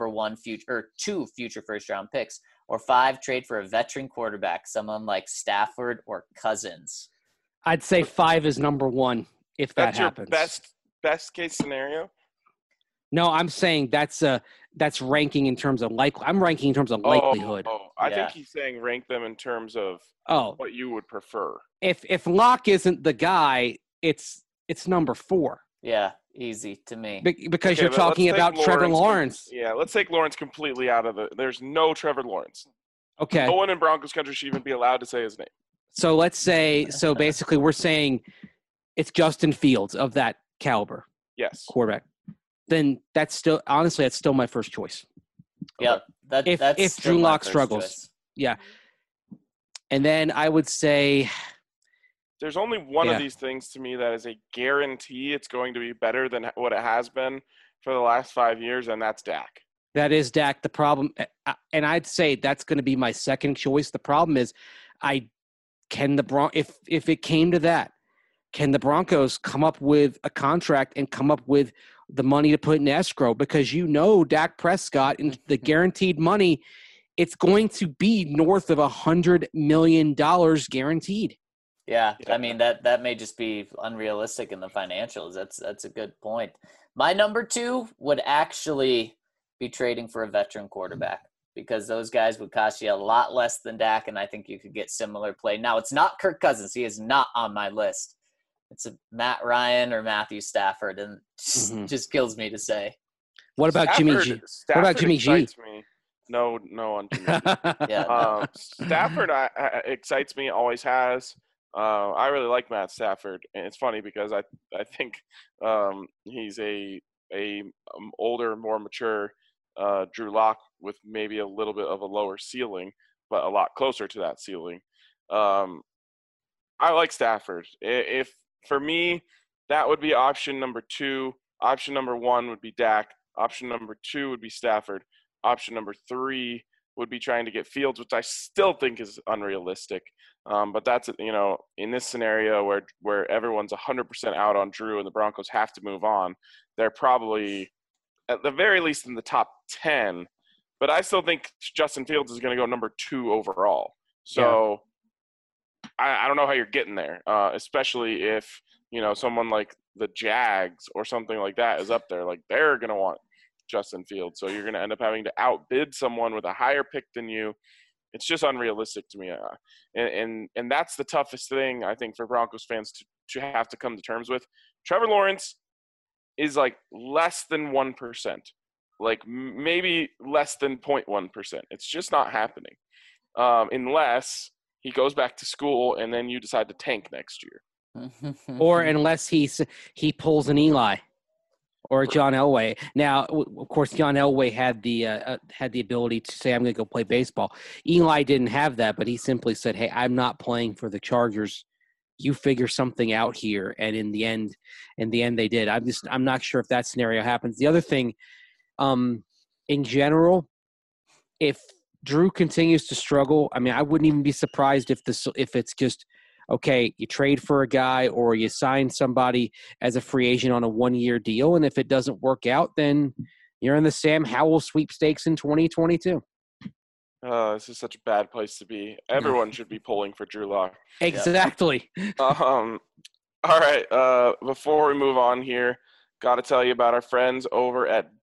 future first-round picks. Or 5, trade for a veteran quarterback, someone like Stafford or Cousins. I'd say 5 is number 1 if that happens. Your best case scenario? No, I'm saying that's ranking in terms of I'm ranking in terms of likelihood. I think he's saying rank them in terms of what you would prefer. If Locke isn't the guy, it's number 4. Yeah, easy to me. Because you're talking about Trevor Lawrence. Yeah, let's take Lawrence completely out of there's no Trevor Lawrence. Okay. No one in Broncos country should even be allowed to say his name. So let's say, basically we're saying it's Justin Fields of that caliber. Yes. Quarterback. Then that's still my first choice. Yeah. Okay. If Drew Lock struggles. Choice. Yeah. And then I would say there's only one of these things to me that is a guarantee it's going to be better than what it has been for the last 5 years, and that's Dak. That is Dak. The problem, and I'd say that's going to be my second choice. The problem is, if it came to that, can the Broncos come up with a contract and come up with the money to put in escrow? Because Dak Prescott and the guaranteed money, it's going to be north of $100 million guaranteed. Yeah, I mean that may just be unrealistic in the financials. That's a good point. My number 2 would actually be trading for a veteran quarterback because those guys would cost you a lot less than Dak, and I think you could get similar play. Now, it's not Kirk Cousins. He is not on my list. It's a Matt Ryan or Matthew Stafford, and just kills me to say. What about Jimmy G? What about Jimmy G? Me. No on Jimmy G. Yeah. Stafford excites me, always has. I really like Matt Stafford, and it's funny because I think he's a older, more mature Drew Lock with maybe a little bit of a lower ceiling, but a lot closer to that ceiling. I like Stafford. If for me, that would be option number 2. Option number 1 would be Dak. Option number 2 would be Stafford. Option number 3 would be trying to get Fields, which I still think is unrealistic. But that's, in this scenario where everyone's 100% out on Drew and the Broncos have to move on, they're probably at the very least in the top 10. But I still think Justin Fields is going to go number 2 overall. So I don't know how you're getting there, especially if, someone like the Jags or something like that is up there. Like, they're going to want Justin Fields. So you're going to end up having to outbid someone with a higher pick than you. It's just unrealistic to me. And that's the toughest thing, I think, for Broncos fans to have to come to terms with. Trevor Lawrence is like less than 1%, like maybe less than 0.1%. It's just not happening unless he goes back to school and then you decide to tank next year. Or unless he pulls an Eli. Or John Elway. Now, of course, John Elway had the ability to say, "I'm going to go play baseball." Eli didn't have that, but he simply said, "Hey, I'm not playing for the Chargers you figure something out here. And in the end they did. I'm not sure if that scenario happens. The other thing, in general, if Drew continues to struggle, I mean, I wouldn't even be surprised if it's just, okay, you trade for a guy or you sign somebody as a free agent on a 1-year deal. And if it doesn't work out, then you're in the Sam Howell sweepstakes in 2022. This is such a bad place to be. Everyone should be pulling for Drew Lock. Exactly. All right. Before we move on here, got to tell you about our friends over at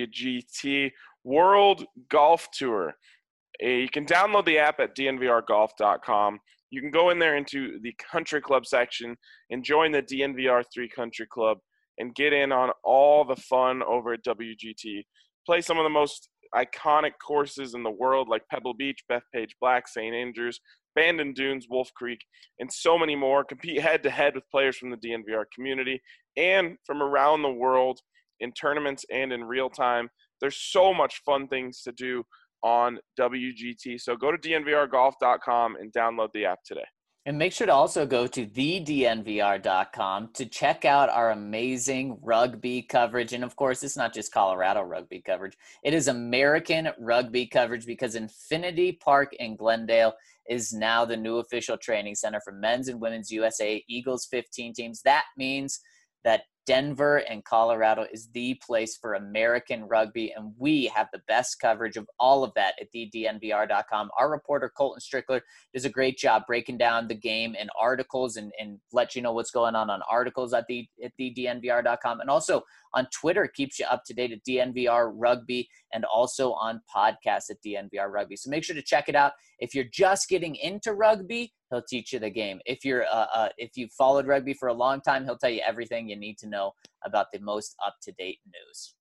WGT World Golf Tour. You can download the app at dnvrgolf.com. You can go in there into the country club section and join the DNVR 3 Country Club and get in on all the fun over at WGT. Play some of the most iconic courses in the world like Pebble Beach, Bethpage Black, St. Andrews, Bandon Dunes, Wolf Creek, and so many more. Compete head-to-head with players from the DNVR community and from around the world in tournaments and in real time. There's so much fun things to do on WGT. So go to dnvrgolf.com and download the app today. And make sure to also go to thednvr.com to check out our amazing rugby coverage. And of course, it's not just Colorado rugby coverage. It is American rugby coverage because Infinity Park in Glendale is now the new official training center for men's and women's USA Eagles 15 teams. That means that Denver and Colorado is the place for American rugby, and we have the best coverage of all of that at thednvr.com. Our reporter, Colton Strickler, does a great job breaking down the game in articles and let you know what's going on articles at thednvr.com. And also on Twitter, keeps you up to date at DNVR Rugby and also on podcasts at DNVR Rugby. So make sure to check it out. If you're just getting into rugby, he'll teach you the game. If you've followed rugby for a long time, he'll tell you everything you need to know about the most up-to-date news.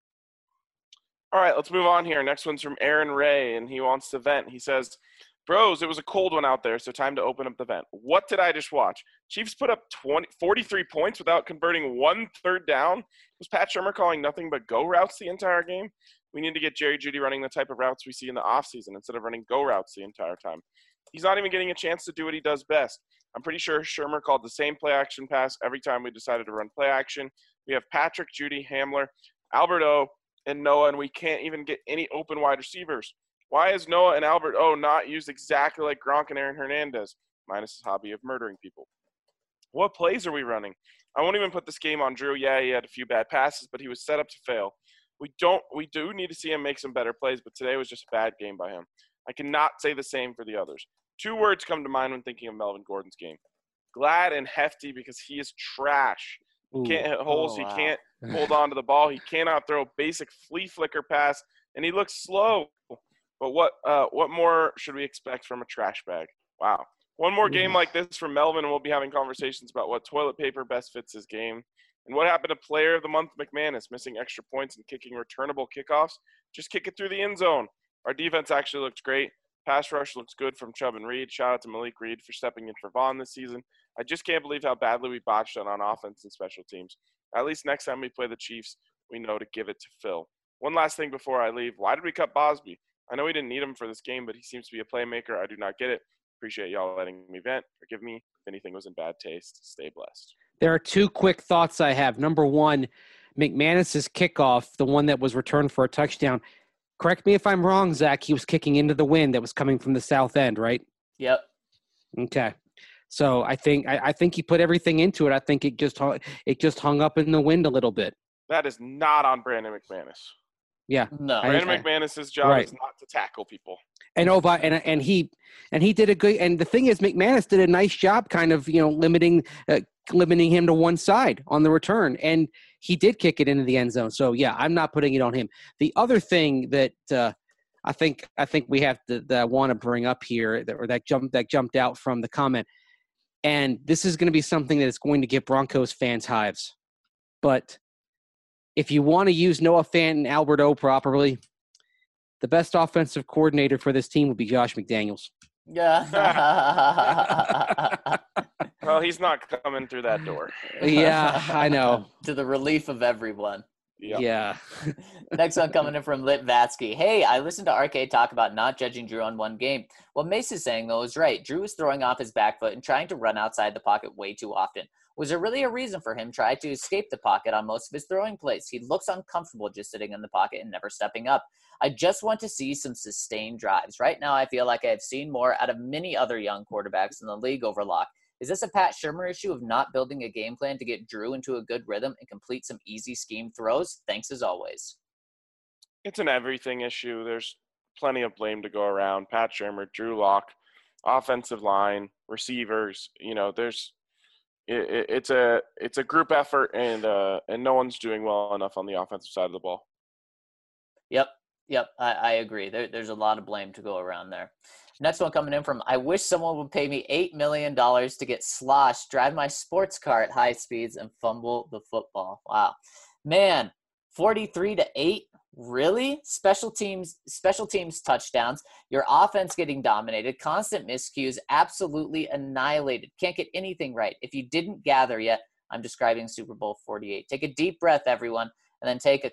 All right, let's move on here. Next one's from Aaron Ray, and he wants to vent. He says, bros, it was a cold one out there, so time to open up the vent. What did I just watch? Chiefs put up 43 points without converting 1 third down. Was Pat Shurmur calling nothing but go routes the entire game? We need to get Jerry Jeudy running the type of routes we see in the offseason instead of running go routes the entire time. He's not even getting a chance to do what he does best. I'm pretty sure Shurmur called the same play action pass every time we decided to run play action. We have Patrick, Jeudy, Hamler, Albert O, and Noah, and we can't even get any open wide receivers. Why is Noah and Albert O not used exactly like Gronk and Aaron Hernandez, minus his hobby of murdering people? What plays are we running? I won't even put this game on Drew. Yeah, he had a few bad passes, but he was set up to fail. We do need to see him make some better plays, but today was just a bad game by him. I cannot say the same for the others. 2 words come to mind when thinking of Melvin Gordon's game. Glad and hefty because he is trash. He can't hit holes. He can't hold on to the ball. He cannot throw a basic flea flicker pass, and he looks slow. But what more should we expect from a trash bag? Wow. One more game like this from Melvin, and we'll be having conversations about what toilet paper best fits his game. And what happened to Player of the Month McManus, missing extra points and kicking returnable kickoffs? Just kick it through the end zone. Our defense actually looks great. Pass rush looks good from Chubb and Reed. Shout out to Malik Reed for stepping in for Vaughn this season. I just can't believe how badly we botched it on offense and special teams. At least next time we play the Chiefs, we know to give it to Phil. One last thing before I leave. Why did we cut Bosby? I know we didn't need him for this game, but he seems to be a playmaker. I do not get it. Appreciate y'all letting me vent. Forgive me if anything was in bad taste. Stay blessed. There are 2 quick thoughts I have. Number one, McManus's kickoff, the one that was returned for a touchdown. Correct me if I'm wrong, Zach. He was kicking into the wind that was coming from the south end, right? Yep. Okay. So I think he put everything into it. I think it just hung up in the wind a little bit. That is not on Brandon McManus. Yeah. No. Brandon McManus's job is not to tackle people. And he did a good. And the thing is, McManus did a nice job, kind of limiting him to one side on the return, and he did kick it into the end zone. So yeah, I'm not putting it on him. The other thing that I think we have that I want to bring up here, that jumped out from the comment, and this is going to be something that is going to get Broncos fans hives, but if you want to use Noah Fant and Albert O properly, the best offensive coordinator for this team would be Josh McDaniels. Yeah. Well, he's not coming through that door. Yeah, I know. To the relief of everyone. Yep. Yeah. Next one coming in from Litvatsky. Hey, I listened to RK talk about not judging Drew on one game. What Mace is saying, though, is right. Drew was throwing off his back foot and trying to run outside the pocket way too often. Was there really a reason for him trying to escape the pocket on most of his throwing plays? He looks uncomfortable just sitting in the pocket and never stepping up. I just want to see some sustained drives. Right now, I feel like I have seen more out of many other young quarterbacks in the league over Locke. Is this a Pat Shurmur issue of not building a game plan to get Drew into a good rhythm and complete some easy scheme throws? Thanks as always. It's an everything issue. There's plenty of blame to go around. Pat Shurmur, Drew Lock, offensive line, receivers. It's a group effort, and no one's doing well enough on the offensive side of the ball. Yep, I agree. There's a lot of blame to go around there. Next one coming in from, I wish someone would pay me $8 million to get sloshed, drive my sports car at high speeds, and fumble the football. Wow. Man, 43-8? Really? Special teams touchdowns, your offense getting dominated, constant miscues, absolutely annihilated. Can't get anything right. If you didn't gather yet, I'm describing Super Bowl 48. Take a deep breath, everyone, and then take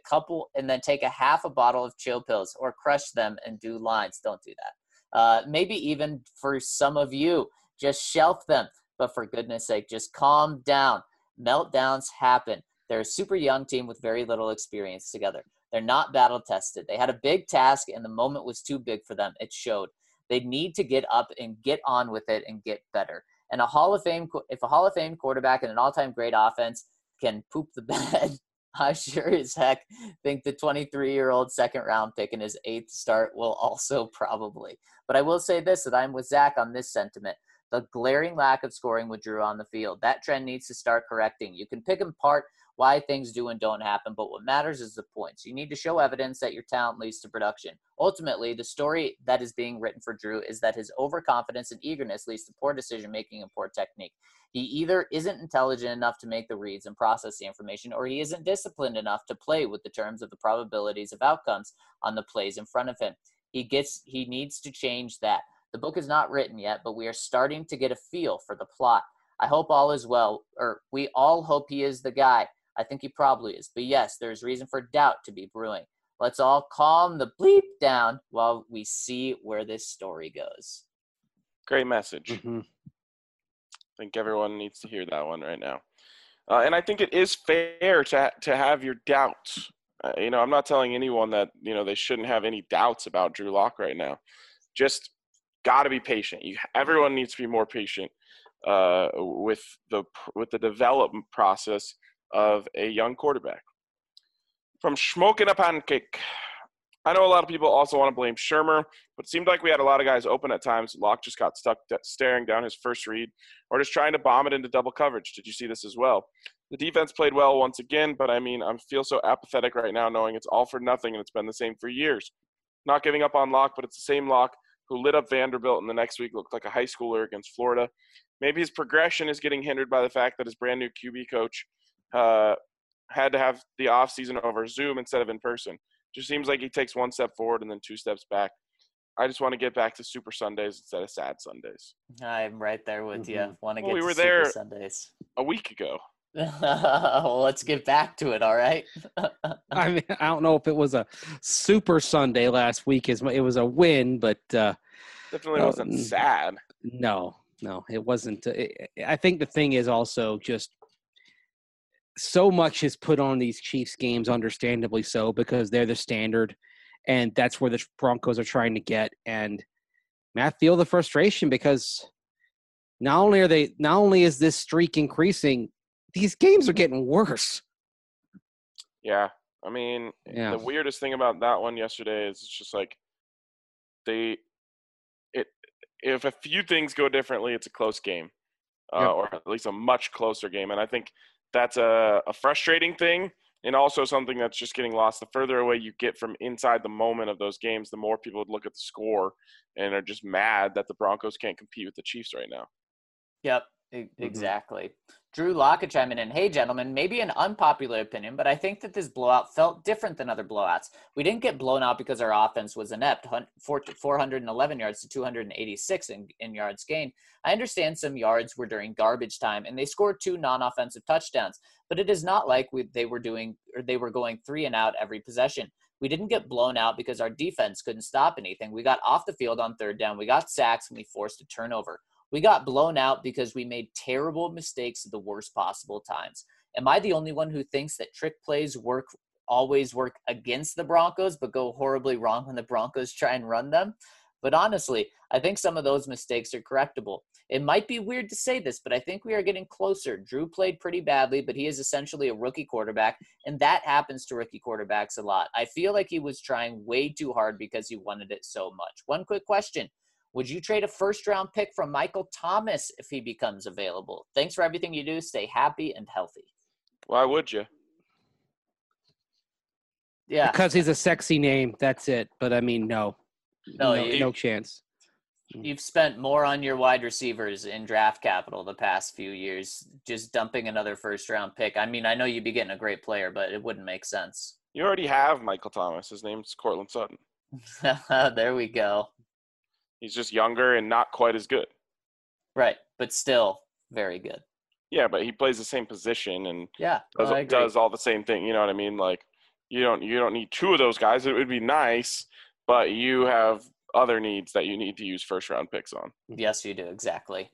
a half a bottle of chill pills or crush them and do lines. Don't do that. Maybe even for some of you, just shelf them. But for goodness sake, just calm down. Meltdowns happen. They're a super young team with very little experience together. They're not battle tested. They had a big task and the moment was too big for them. It showed. They need to get up and get on with it and get better. And if a Hall of Fame quarterback and an all-time great offense can poop the bed, I sure as heck think the 23-year-old second-round pick in his 8th start will also probably. But I will say this, that I'm with Zach on this sentiment. The glaring lack of scoring with Drew on the field, that trend needs to start correcting. You can pick apart why things do and don't happen, but what matters is the points. You need to show evidence that your talent leads to production. Ultimately, the story that is being written for Drew is that his overconfidence and eagerness leads to poor decision-making and poor technique. He either isn't intelligent enough to make the reads and process the information, or he isn't disciplined enough to play with the terms of the probabilities of outcomes on the plays in front of him. He needs to change that. The book is not written yet, but we are starting to get a feel for the plot. I hope all is well, or we all hope he is the guy. I think he probably is. But yes, there's reason for doubt to be brewing. Let's all calm the bleep down while we see where this story goes. Great message. Mm-hmm. I think everyone needs to hear that one right now. And I think it is fair to have your doubts. I'm not telling anyone that, they shouldn't have any doubts about Drew Lock right now. Just got to be patient. Everyone needs to be more patient with the development process of a young quarterback. From Smoking a Pancake. I know a lot of people also want to blame Shurmur, but it seemed like we had a lot of guys open at times. Locke just got stuck staring down his first read or just trying to bomb it into double coverage. Did you see this as well? The defense played well once again, but I feel so apathetic right now knowing it's all for nothing and it's been the same for years. Not giving up on Locke, but it's the same Locke who lit up Vanderbilt and the next week looked like a high schooler against Florida. Maybe his progression is getting hindered by the fact that his brand new QB coach had to have the offseason over Zoom instead of in person. Just seems like he takes one step forward and then two steps back. I just want to get back to Super Sundays instead of sad Sundays. I'm right there with you. Want to get we to were Super there Sundays a week ago. Well, let's get back to it, all right? I don't know if it was a Super Sunday last week. It was a win, but definitely wasn't sad. No, it wasn't. I think the thing is also just so much is put on these Chiefs games, understandably so, because they're the standard, and that's where the Broncos are trying to get. And I feel the frustration because not only is this streak increasing, these games are getting worse. Yeah. The weirdest thing about that one yesterday is it's just like if a few things go differently, it's a close game, or at least a much closer game. And I think that's a frustrating thing, and also something that's just getting lost. The further away you get from inside the moment of those games, the more people would look at the score and are just mad that the Broncos can't compete with the Chiefs right now. Yep, exactly. Drew Lock chiming in. Hey, gentlemen, maybe an unpopular opinion, but I think that this blowout felt different than other blowouts. We didn't get blown out because our offense was inept, 411 yards to 286 in yards gained. I understand some yards were during garbage time, and they scored 2 non-offensive touchdowns, but it is not like they were going 3 and out every possession. We didn't get blown out because our defense couldn't stop anything. We got off the field on third down. We got sacks, and we forced a turnover. We got blown out because we made terrible mistakes at the worst possible times. Am I the only one who thinks that trick plays always work against the Broncos, but go horribly wrong when the Broncos try and run them? But honestly, I think some of those mistakes are correctable. It might be weird to say this, but I think we are getting closer. Drew played pretty badly, but he is essentially a rookie quarterback, and that happens to rookie quarterbacks a lot. I feel like he was trying way too hard because he wanted it so much. One quick question. Would you trade a first-round pick from Michael Thomas if he becomes available? Thanks for everything you do. Stay happy and healthy. Why would you? Yeah. Because he's a sexy name. That's it. But, I mean, no chance. You've spent more on your wide receivers in draft capital the past few years, just dumping another first-round pick. I mean, I know you'd be getting a great player, but it wouldn't make sense. You already have Michael Thomas. His name's Cortland Sutton. There we go. He's just younger and not quite as good. Right, but still very good. Yeah, but he plays the same position and I does all the same thing. You know what I mean? Like, you don't need 2 of those guys. It would be nice, but you have other needs that you need to use first-round picks on. Yes, you do. Exactly.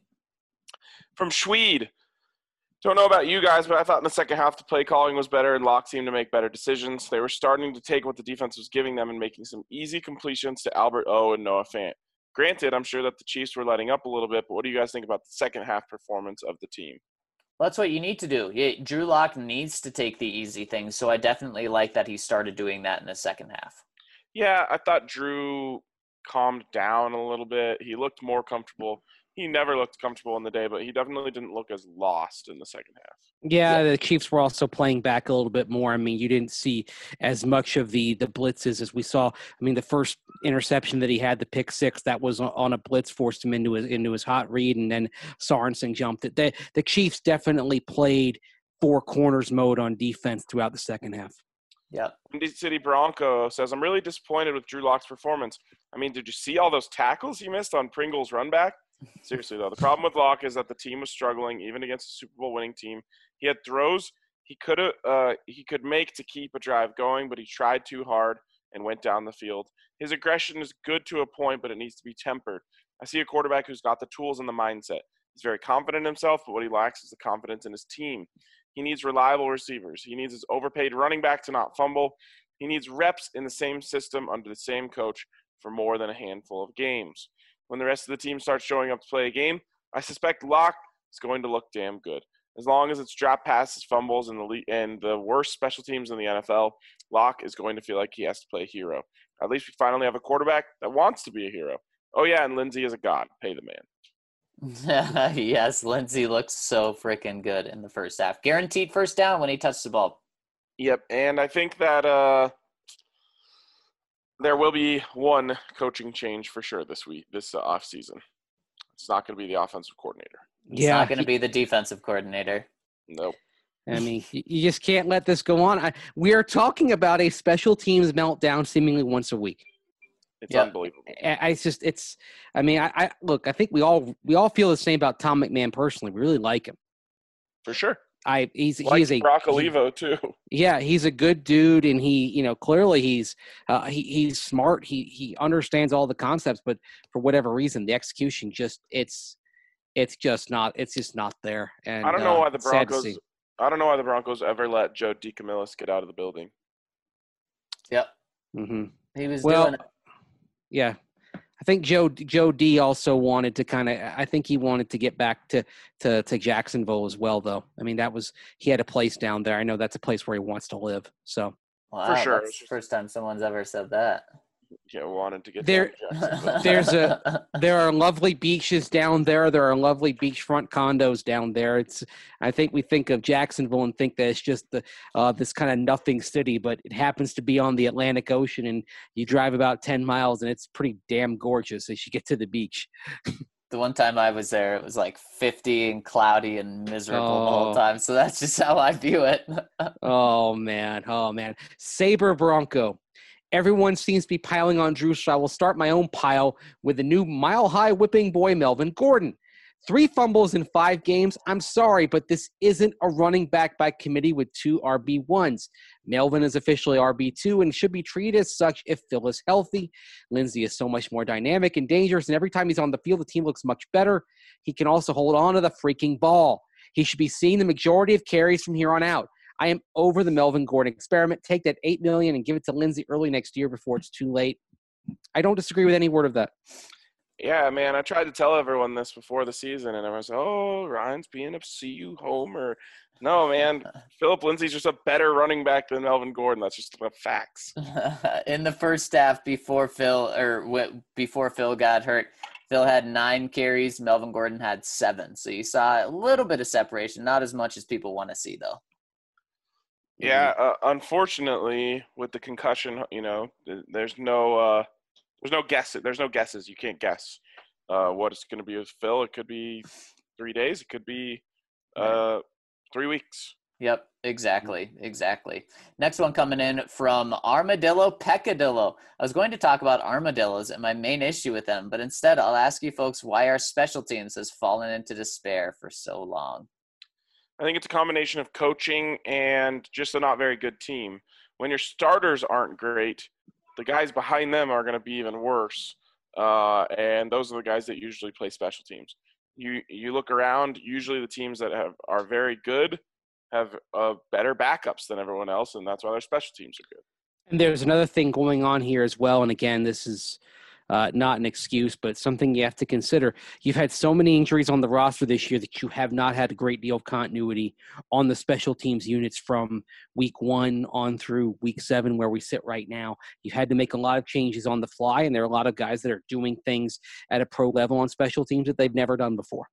From Schweed. Don't know about you guys, but I thought in the second half the play calling was better and Locke seemed to make better decisions. They were starting to take what the defense was giving them and making some easy completions to Albert O and Noah Fant. Granted, I'm sure that the Chiefs were letting up a little bit, but what do you guys think about the second half performance of the team? Well, that's what you need to do. Drew Lock needs to take the easy things, so I definitely like that he started doing that in the second half. Yeah, I thought Drew calmed down a little bit. He looked more comfortable. He never looked comfortable in the day, but he definitely didn't look as lost in the second half. Yeah, the Chiefs were also playing back a little bit more. I mean, you didn't see as much of the blitzes as we saw. I mean, the first interception that he had, the pick six, that was on a blitz, forced him into his hot read, and then Sorensen jumped it. The Chiefs definitely played 4 corners mode on defense throughout the second half. Yeah. Indy City Bronco says, I'm really disappointed with Drew Lock's performance. I mean, did you see all those tackles he missed on Pringle's run back? Seriously, though, the problem with Locke is that the team was struggling, even against a Super Bowl winning team. He had throws he could make to keep a drive going, but he tried too hard and went down the field. His aggression is good to a point, but it needs to be tempered. I see a quarterback who's got the tools and the mindset. He's very confident in himself, but what he lacks is the confidence in his team. He needs reliable receivers. He needs his overpaid running back to not fumble. He needs reps in the same system under the same coach for more than a handful of games. When the rest of the team starts showing up to play a game, I suspect Locke is going to look damn good. As long as it's drop passes, fumbles, and the worst special teams in the NFL, Locke is going to feel like he has to play a hero. At least we finally have a quarterback that wants to be a hero. Oh, yeah, and Lindsey is a god. Pay the man. Yes, Lindsey looked so freaking good in the first half. Guaranteed first down when he touched the ball. Yep, and I think that there will be one coaching change for sure this offseason. It's not going to be the offensive coordinator. It's not going to be the defensive coordinator. Nope. I mean, you just can't let this go on. We are talking about a special teams meltdown seemingly once a week. It's unbelievable. I think we all feel the same about Tom McMahon personally. We really like him. For sure. He's a Brock Olivo too. Yeah, he's a good dude, and clearly he's smart. He understands all the concepts, but for whatever reason, the execution it's just not there. And I don't know why the Broncos ever let Joe DeCamillis get out of the building. Yep. Mm-hmm. He was doing it. Yeah. I think Joe D also wanted to I think he wanted to get back to Jacksonville as well, though. I mean, he had a place down there. I know that's a place where he wants to live. So wow, for sure, that's the first time someone's ever said that. Yeah, wanted to get there. There are lovely beaches down there. There are lovely beachfront condos down there. I think we think of Jacksonville and think that it's just this kind of nothing city, but it happens to be on the Atlantic Ocean, and you drive about 10 miles, and it's pretty damn gorgeous as you get to the beach. The one time I was there, it was like 50 and cloudy and miserable the whole time. So that's just how I view it. Oh man. Sabre Bronco. Everyone seems to be piling on Drew, so I will start my own pile with the new mile-high whipping boy, Melvin Gordon. 3 fumbles in 5 games. I'm sorry, but this isn't a running back by committee with 2 RB1s. Melvin is officially RB2 and should be treated as such if Phil is healthy. Lindsey is so much more dynamic and dangerous, and every time he's on the field, the team looks much better. He can also hold on to the freaking ball. He should be seeing the majority of carries from here on out. I am over the Melvin Gordon experiment. Take that $8 million and give it to Lindsey early next year before it's too late. I don't disagree with any word of that. Yeah, man, I tried to tell everyone this before the season, and everyone's like, oh, Ryan's being a CU homer. No, man, Philip Lindsey's just a better running back than Melvin Gordon. That's just the facts. In the first half before Phil got hurt, Phil had 9 carries. Melvin Gordon had 7. So you saw a little bit of separation, not as much as people want to see, though. Yeah, unfortunately, with the concussion, there's no guess. There's no guesses. You can't guess what it's going to be with Phil. It could be 3 days. It could be 3 weeks. Yep, exactly. Next one coming in from Armadillo Peccadillo. I was going to talk about armadillos and my main issue with them, but instead I'll ask you folks why our special teams has fallen into despair for so long. I think it's a combination of coaching and just a not very good team. When your starters aren't great, the guys behind them are going to be even worse, and those are the guys that usually play special teams. You look around, usually the teams that are very good have better backups than everyone else, and that's why their special teams are good. And there's another thing going on here as well, and again, this is not an excuse, but something you have to consider. You've had so many injuries on the roster this year that you have not had a great deal of continuity on the special teams units from week 1 on through week 7 where we sit right now. You've had to make a lot of changes on the fly, and there are a lot of guys that are doing things at a pro level on special teams that they've never done before.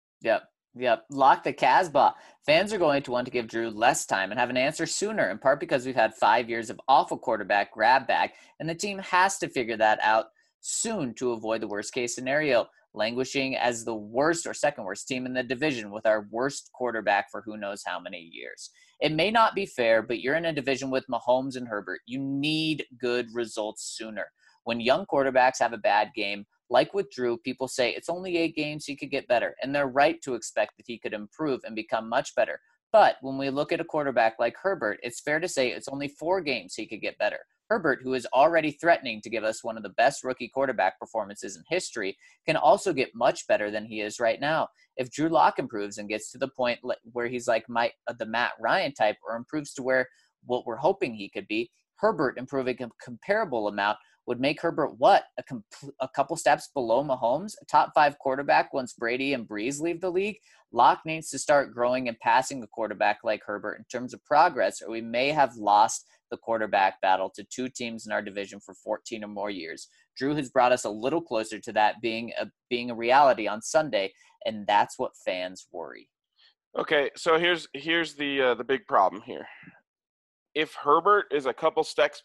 Yep. Lock the Casbah. Fans are going to want to give Drew less time and have an answer sooner, in part because we've had 5 years of awful quarterback grab bag, and the team has to figure that out soon to avoid the worst case scenario, languishing as the worst or second worst team in the division with our worst quarterback for who knows how many years. It may not be fair, but you're in a division with Mahomes and Herbert. You need good results sooner. When young quarterbacks have a bad game, like with Drew, people say it's only 8 games, he could get better, and they're right to expect that he could improve and become much better. But when we look at a quarterback like Herbert, it's fair to say it's only 4 games he could get better. Herbert, who is already threatening to give us one of the best rookie quarterback performances in history, can also get much better than he is right now. If Drew Lock improves and gets to the point where he's like the Matt Ryan type, or improves to where what we're hoping he could be, Herbert improving a comparable amount would make Herbert a couple steps below Mahomes, a top 5 quarterback once Brady and Breeze leave the league. Lock needs to start growing and passing a quarterback like Herbert in terms of progress, or we may have lost the quarterback battle to 2 teams in our division for 14 or more years. Drew has brought us a little closer to that being a reality on Sunday, and that's what fans worry. Okay, so here's the big problem here. If Herbert is a couple steps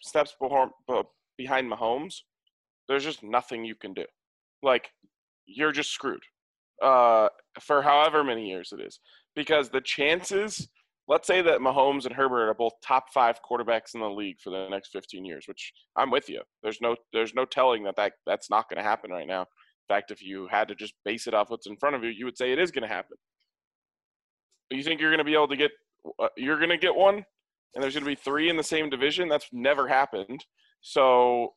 behind Mahomes, there's just nothing you can do. Like, you're just screwed for however many years it is. Because the chances, let's say that Mahomes and Herbert are both top 5 quarterbacks in the league for the next 15 years, which I'm with you. There's no telling that's not going to happen right now. In fact, if you had to just base it off what's in front of you, you would say it is going to happen. But you think you're going to be able to get you're going to get one, and there's going to be 3 in the same division? That's never happened. So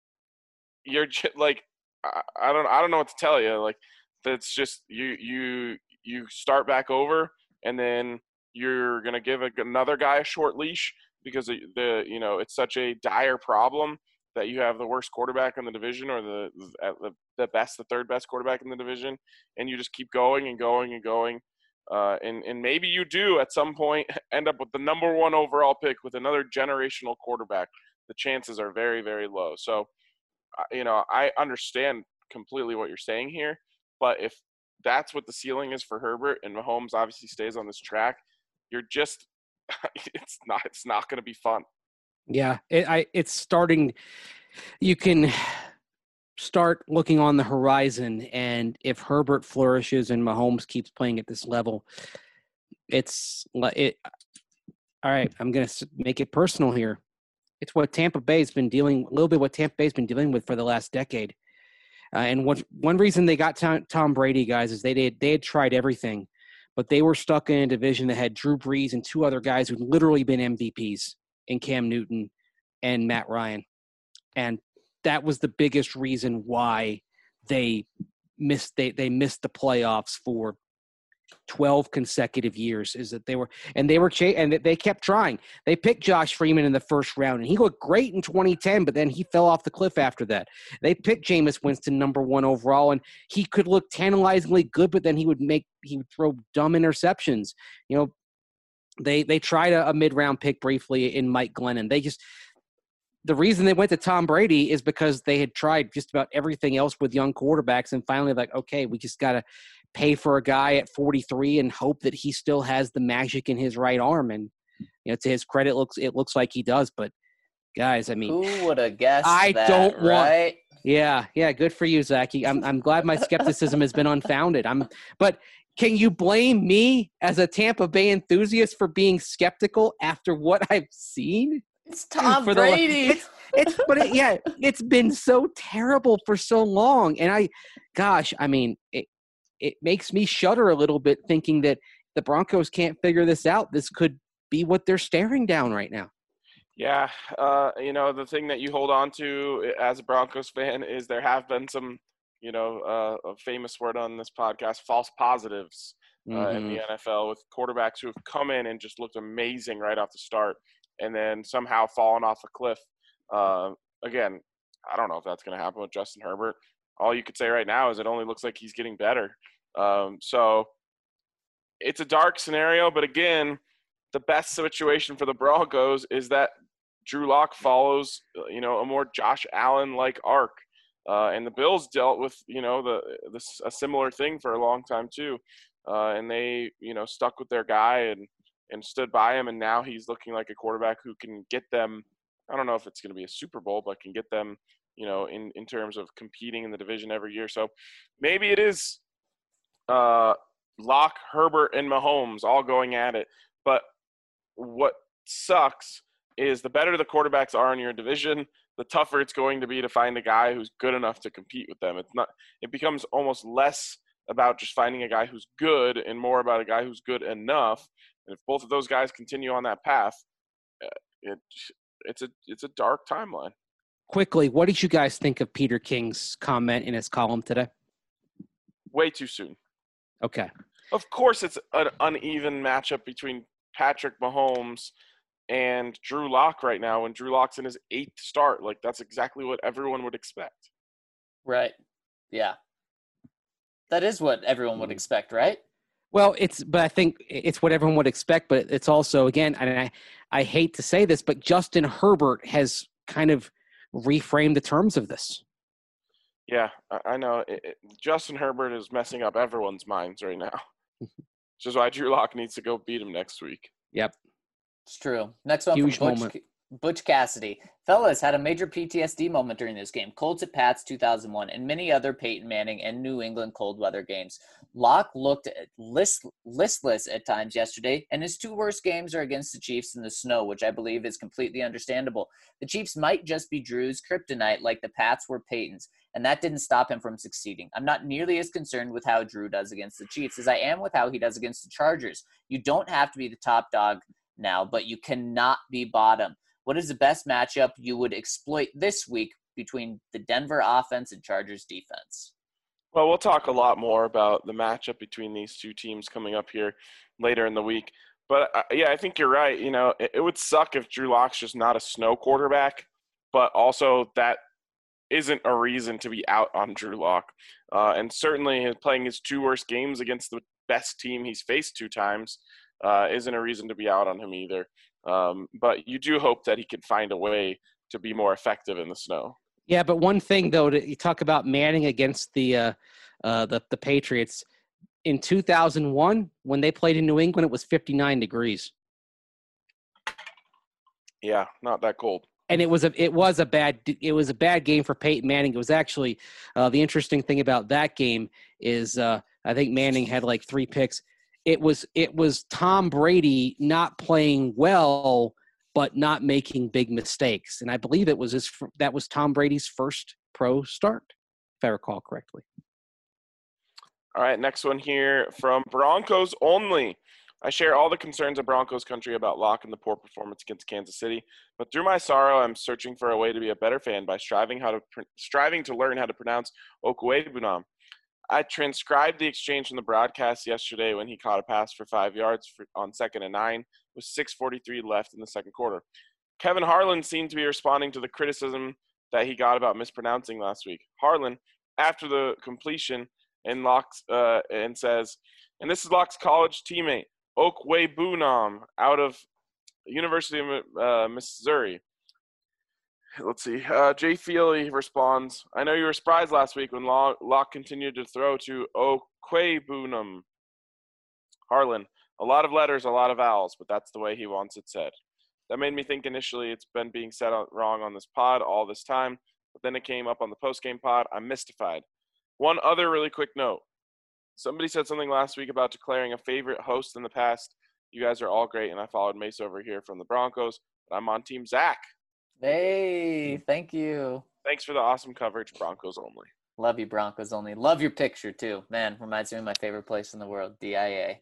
you're just like, I don't know what to tell you. Like, that's just you start back over, and then you're gonna give another guy a short leash because it's such a dire problem that you have the worst quarterback in the division, or the third best quarterback in the division, and you just keep going and going and going. And maybe you do at some point end up with the number 1 overall pick with another generational quarterback. The chances are very, very low. So, I understand completely what you're saying here, but if that's what the ceiling is for Herbert and Mahomes obviously stays on this track, you're just it's not going to be fun. Yeah, it's starting. You can start looking on the horizon, and if Herbert flourishes and Mahomes keeps playing at this level, all right, I'm going to make it personal here. It's what Tampa Bay's been dealing with for the last decade. And one reason they got Tom Brady, guys, is they had tried everything, but they were stuck in a division that had Drew Brees and two other guys who'd literally been MVPs in Cam Newton and Matt Ryan. And that was the biggest reason why they missed the playoffs for 12 consecutive years, is that they kept trying. They picked Josh Freeman in the first round, and he looked great in 2010, but then he fell off the cliff after that. They picked Jameis Winston number 1 overall, and he could look tantalizingly good, but then he would throw dumb interceptions. You know, they tried a mid-round pick briefly in Mike Glennon. The reason they went to Tom Brady is because they had tried just about everything else with young quarterbacks, and finally like, okay, we just got to pay for a guy at 43 and hope that he still has the magic in his right arm. And, you know, to his credit, it looks like he does. But guys, I mean, who would have guessed right? Yeah, good for you, Zach. I'm glad my skepticism has been unfounded. But can you blame me as a Tampa Bay enthusiast for being skeptical after what I've seen? It's Tom Brady. It's been so terrible for so long. And it makes me shudder a little bit thinking that the Broncos can't figure this out. This could be what they're staring down right now. Yeah. The thing that you hold on to as a Broncos fan is there have been some, a famous word on this podcast, false positives in the NFL, with quarterbacks who have come in and just looked amazing right off the start and then somehow fallen off a cliff. Again, I don't know if that's going to happen with Justin Herbert. All you could say right now is it only looks like he's getting better. So it's a dark scenario, but again, the best situation for the Broncos is that Drew Lock follows, a more Josh Allen-like arc. And the Bills dealt with, a similar thing for a long time too. And they, stuck with their guy and stood by him. And now he's looking like a quarterback who can get them, I don't know if it's going to be a Super Bowl, but can get them, in terms of competing in the division every year. So maybe it is Lock, Herbert, and Mahomes all going at it. But what sucks is the better the quarterbacks are in your division, the tougher it's going to be to find a guy who's good enough to compete with them. It becomes almost less about just finding a guy who's good and more about a guy who's good enough. And if both of those guys continue on that path, it's a dark timeline. Quickly, what did you guys think of Peter King's comment in his column today? Way too soon. Okay. Of course it's an uneven matchup between Patrick Mahomes and Drew Lock right now, and Drew Lock's in his 8th start. Like, that's exactly what everyone would expect. Right. Yeah. That is what everyone would expect, right? Well, but I think it's what everyone would expect, but it's also, again, and I hate to say this, but Justin Herbert has kind of reframed the terms of this. Yeah, I know. Justin Herbert is messing up everyone's minds right now. Which is why Drew Lock needs to go beat him next week. Yep. It's true. Next one Huge from moment. Butch Cassidy. Fellas had a major PTSD moment during this game. Colts at Pats 2001 and many other Peyton Manning and New England cold weather games. Locke looked listless at times yesterday, and his 2 worst games are against the Chiefs in the snow, which I believe is completely understandable. The Chiefs might just be Drew's kryptonite like the Pats were Peyton's, and that didn't stop him from succeeding. I'm not nearly as concerned with how Drew does against the Chiefs as I am with how he does against the Chargers. You don't have to be the top dog now, but you cannot be bottom. What is the best matchup you would exploit this week between the Denver offense and Chargers defense? Well, we'll talk a lot more about the matchup between these two teams coming up here later in the week. But, I think you're right. It would suck if Drew Lock's just not a snow quarterback, but also that isn't a reason to be out on Drew Lock. And certainly playing his 2 worst games against the best team he's faced 2 times isn't a reason to be out on him either. But you do hope that he can find a way to be more effective in the snow. Yeah, but one thing though, you talk about Manning against the Patriots in 2001 when they played in New England, it was 59 degrees. Yeah, not that cold. And it was a bad game for Peyton Manning. It was actually the interesting thing about that game is I think Manning had like 3 picks. It was Tom Brady not playing well, but not making big mistakes. And I believe that was Tom Brady's first pro start, if I recall correctly. All right, next one here from Broncos Only. I share all the concerns of Broncos country about Locke and the poor performance against Kansas City, but through my sorrow, I'm searching for a way to be a better fan by striving to learn how to pronounce Okwuegbunam. I transcribed the exchange from the broadcast yesterday when he caught a pass for 5 yards on 2nd and 9 with 6:43 left in the second quarter. Kevin Harlan seemed to be responding to the criticism that he got about mispronouncing last week. Harlan, after the completion, and says, and this is Locke's college teammate, Okwuegbunam, out of University of Missouri. Let's see. Jay Feely responds, I know you were surprised last week when Locke continued to throw to Okwuegbunam. Harlan, a lot of letters, a lot of vowels, but that's the way he wants it said. That made me think initially it's been being said wrong on this pod all this time, but then it came up on the post-game pod. I'm mystified. One other really quick note. Somebody said something last week about declaring a favorite host in the past. You guys are all great, and I followed Mace over here from the Broncos, but I'm on Team Zach. Hey, thank you. Thanks for the awesome coverage, Broncos Only. Love you, Broncos Only. Love your picture, too. Man, reminds me of my favorite place in the world, DIA.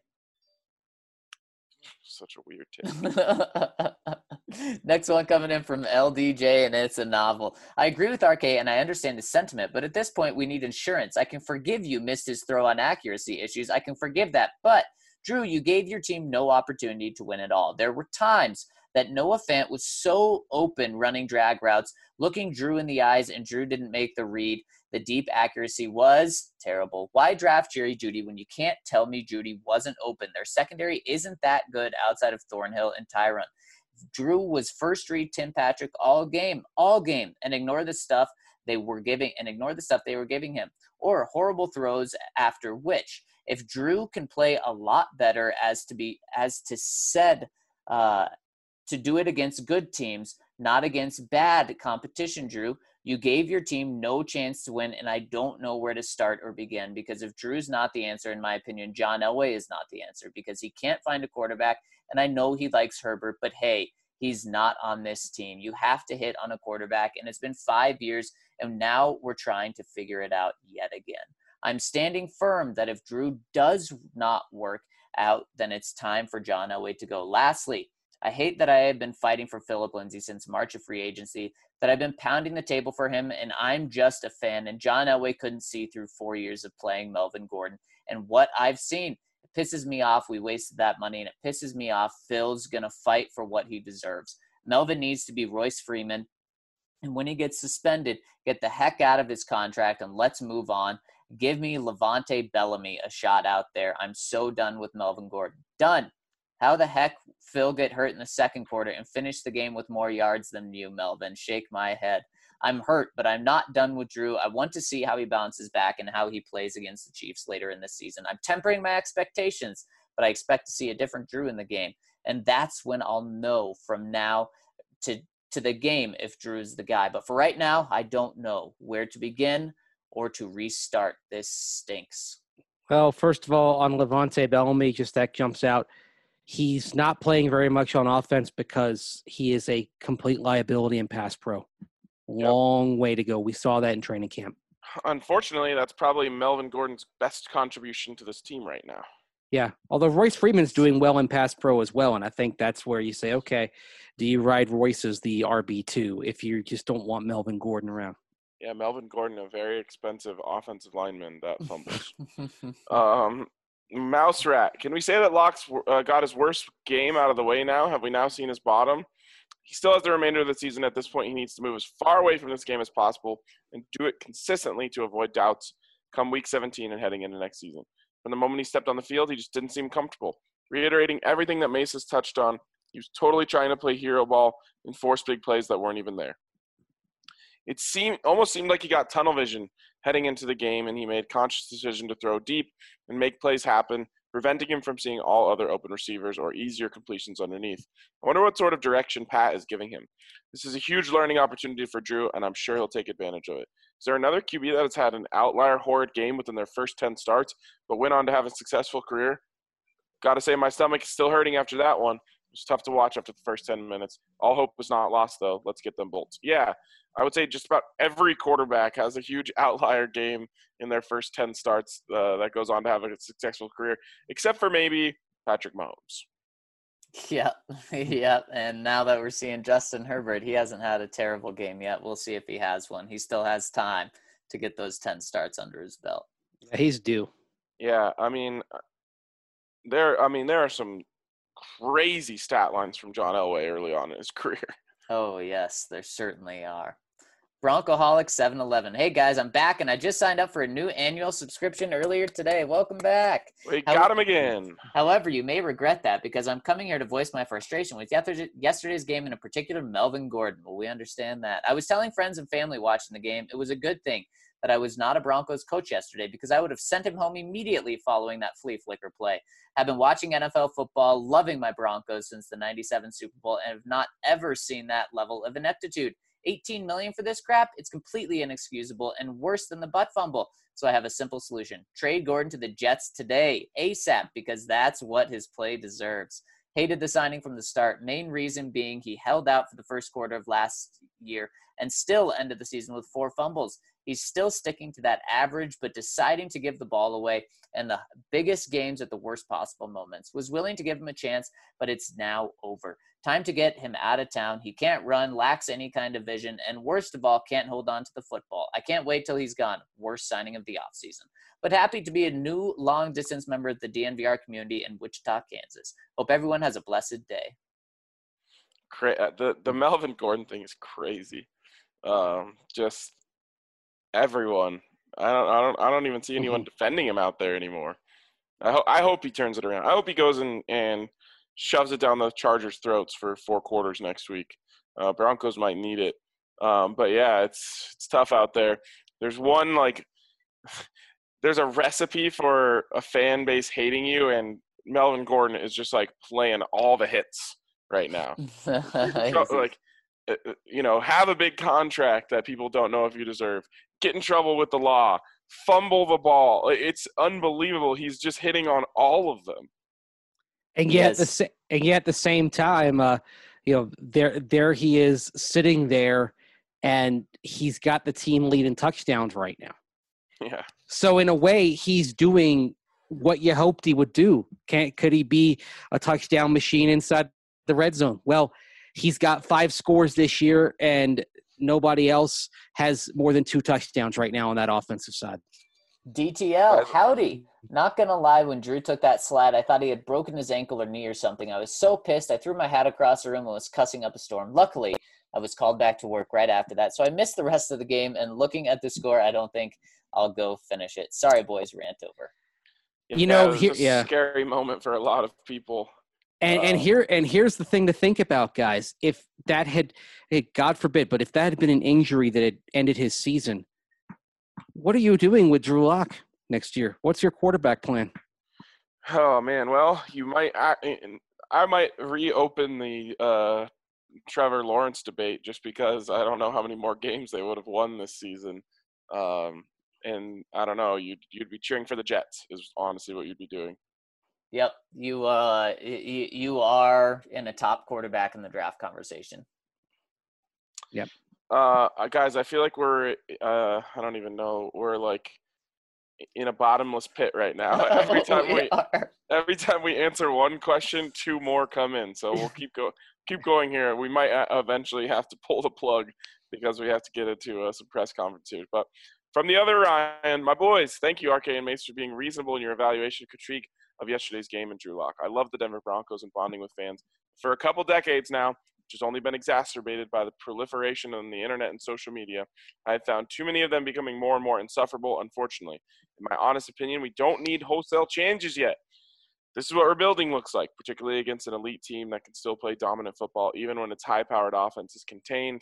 Such a weird tip. Next one coming in from LDJ, and it's a novel. I agree with RK, and I understand his sentiment, but at this point, we need insurance. I can forgive you missed his throw on accuracy issues. I can forgive that. But, Drew, you gave your team no opportunity to win at all. There were times that Noah Fant was so open running drag routes, looking Drew in the eyes, and Drew didn't make the read. The deep accuracy was terrible. Why draft Jerry Jeudy when you can't tell me Jeudy wasn't open? Their secondary isn't that good outside of Thornhill and Tyron. Drew was first read Tim Patrick all game, and ignore the stuff they were giving him, or horrible throws after which. If Drew can play a lot better to do it against good teams, not against bad competition, Drew. You gave your team no chance to win, and I don't know where to start or begin, because if Drew's not the answer, in my opinion, John Elway is not the answer, because he can't find a quarterback, and I know he likes Herbert, but hey, he's not on this team. You have to hit on a quarterback, and it's been 5 years, and now we're trying to figure it out yet again. I'm standing firm that if Drew does not work out, then it's time for John Elway to go. Lastly, I hate that I have been fighting for Philip Lindsay since March of free agency, that I've been pounding the table for him, and I'm just a fan, and John Elway couldn't see through 4 years of playing Melvin Gordon. And what I've seen, it pisses me off. We wasted that money, and it pisses me off. Phil's going to fight for what he deserves. Melvin needs to be Royce Freeman, and when he gets suspended, get the heck out of his contract, and let's move on. Give me Levante Bellamy a shot out there. I'm so done with Melvin Gordon. Done. How the heck Phil get hurt in the second quarter and finish the game with more yards than you, Melvin? Shake my head. I'm hurt, but I'm not done with Drew. I want to see how he bounces back and how he plays against the Chiefs later in the season. I'm tempering my expectations, but I expect to see a different Drew in the game. And that's when I'll know from now to the game if Drew's the guy. But for right now, I don't know where to begin or to restart. This stinks. Well, first of all, on Levante Bellamy, just that jumps out. He's not playing very much on offense because he is a complete liability in pass pro. Long way to go. We saw that in training camp. Unfortunately, that's probably Melvin Gordon's best contribution to this team right now. Yeah, although Royce Freeman's doing well in pass pro as well, and I think that's where you say, okay, do you ride Royce as the RB2 if you just don't want Melvin Gordon around? Yeah, Melvin Gordon, a very expensive offensive lineman that fumbles. Mouse Rat, can we say that Locke's got his worst game out of the way now? Have we now seen his bottom? He still has the remainder of the season. At this point, he needs to move as far away from this game as possible and do it consistently to avoid doubts come Week 17 and heading into next season. From the moment he stepped on the field, he just didn't seem comfortable. Reiterating everything that Mace has touched on, he was totally trying to play hero ball and force big plays that weren't even there. It almost seemed like he got tunnel vision heading into the game, and he made conscious decision to throw deep and make plays happen preventing him from seeing all other open receivers or easier completions underneath. I wonder what sort of direction Pat is giving him. This is a huge learning opportunity for Drew, and I'm sure he'll take advantage of it. Is there another QB that has had an outlier horrid game within their first 10 starts, but went on to have a successful career? Got to say, my stomach is still hurting after that one. It's tough to watch after the first 10 minutes. All hope is not lost, though. Let's get them bolts. Yeah, I would say just about every quarterback has a huge outlier game in their first 10 starts that goes on to have a successful career, except for maybe Patrick Mahomes. Yep, yep. And now that we're seeing Justin Herbert, he hasn't had a terrible game yet. We'll see if he has one. He still has time to get those 10 starts under his belt. Yeah, he's due. Yeah, I mean, there are some crazy stat lines from John Elway early on in his career. Oh, yes, there certainly are. Broncoholic 711. Hey, guys, I'm back, and I just signed up for a new annual subscription earlier today. Welcome back. We got him again. However, you may regret that because I'm coming here to voice my frustration with yesterday's game, in a particular Melvin Gordon. Well, we understand that. I was telling friends and family watching the game it was a good thing that I was not a Broncos coach yesterday because I would have sent him home immediately following that flea flicker play. I've been watching NFL football, loving my Broncos since the 97 Super Bowl, and have not ever seen that level of ineptitude. $18 million for this crap? It's completely inexcusable and worse than the butt fumble. So I have a simple solution. Trade Gordon to the Jets today, ASAP, because that's what his play deserves. Hated the signing from the start. Main reason being he held out for the first quarter of last year and still ended the season with 4 fumbles. He's still sticking to that average, but deciding to give the ball away in the biggest games at the worst possible moments. Was willing to give him a chance, but it's now over. Time to get him out of town. He can't run, lacks any kind of vision, and worst of all, can't hold on to the football. I can't wait till he's gone. Worst signing of the offseason. But happy to be a new long-distance member of the DNVR community in Wichita, Kansas. Hope everyone has a blessed day. The Melvin Gordon thing is crazy. Just everyone. I don't even see anyone defending him out there anymore. I hope he turns it around. I hope he goes and shoves it down the Chargers' throats for 4 quarters next week. Broncos might need it. But yeah, it's tough out there. There's there's a recipe for a fan base hating you, and Melvin Gordon is just like playing all the hits right now. Have a big contract that people don't know if you deserve. Get in trouble with the law. Fumble the ball. It's unbelievable. He's just hitting on all of them. And yet, at the same time, there he is sitting there, and he's got the team lead in touchdowns right now. Yeah. So in a way, he's doing what you hoped he would do. Could he be a touchdown machine inside the red zone? Well, he's got 5 scores this year, and nobody else has more than 2 touchdowns right now on that offensive side. DTL, howdy. Not going to lie, when Drew took that slide, I thought he had broken his ankle or knee or something. I was so pissed. I threw my hat across the room and was cussing up a storm. Luckily, I was called back to work right after that, so I missed the rest of the game, and looking at the score, I don't think I'll go finish it. Sorry, boys, rant over. It's a scary moment for a lot of people. And here's the thing to think about, guys. If that had, God forbid, but if that had been an injury that had ended his season, what are you doing with Drew Lock next year? What's your quarterback plan? Oh man, well, I might reopen the Trevor Lawrence debate just because I don't know how many more games they would have won this season. And I don't know, you'd be cheering for the Jets is honestly what you'd be doing. Yep, you are in a top quarterback in the draft conversation. Yep. Guys, I feel like we're I don't even know, we're like in a bottomless pit right now. Every time we answer one question, 2 more come in. So we'll keep going here. We might eventually have to pull the plug because we have to get into some press conferences. But from the other Ryan, my boys, thank you, RK and Mace, for being reasonable in your evaluation critique of yesterday's game in Drew Lock. I love the Denver Broncos and bonding with fans for a couple decades now, which has only been exacerbated by the proliferation on the internet and social media. I have found too many of them becoming more and more insufferable, unfortunately. In my honest opinion, we don't need wholesale changes yet. This is what rebuilding looks like, particularly against an elite team that can still play dominant football, even when its high-powered offense is contained.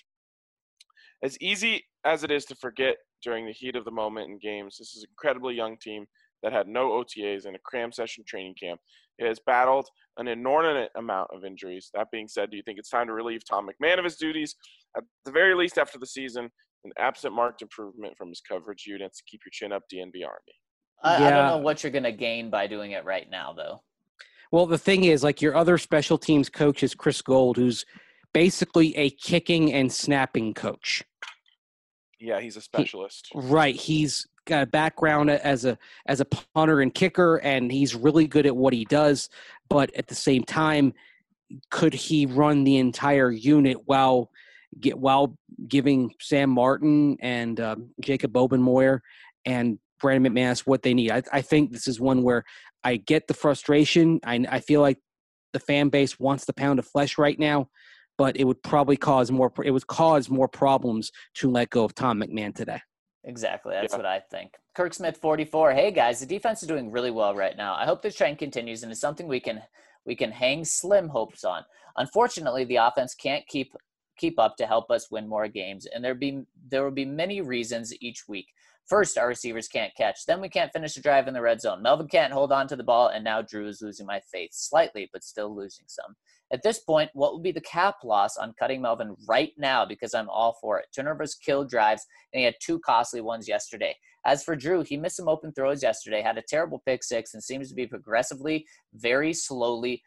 As easy as it is to forget during the heat of the moment in games, this is an incredibly young team that had no OTAs and a cram session training camp. It has battled an inordinate amount of injuries. That being said, do you think it's time to relieve Tom McMahon of his duties, at the very least after the season, and absent marked improvement from his coverage units? Keep your chin up, DNB Army. I don't know what you're going to gain by doing it right now, though. Well, the thing is, like, your other special teams coach is Chris Gold, who's basically a kicking and snapping coach. Yeah, he's a specialist. He's got a background as a punter and kicker, and he's really good at what he does. But at the same time, could he run the entire unit while giving Sam Martin and Jacob Obenmoyer and Brandon McManus what they need? I think this is one where I get the frustration. I feel like the fan base wants the pound of flesh right now, but it would probably cause more problems to let go of Tom McMahon today. Exactly. That's what I think. Kirk Smith, 44. Hey, guys, the defense is doing really well right now. I hope this trend continues, and it's something we can hang slim hopes on. Unfortunately, the offense can't keep up to help us win more games, and there will be many reasons each week. First, our receivers can't catch. Then we can't finish a drive in the red zone. Melvin can't hold on to the ball, and now Drew is losing my faith slightly, but still losing some. At this point, what would be the cap loss on cutting Melvin right now? Because I'm all for it. Turnovers kill drives, and he had 2 costly ones yesterday. As for Drew, he missed some open throws yesterday, had a terrible pick 6, and seems to be progressing very slowly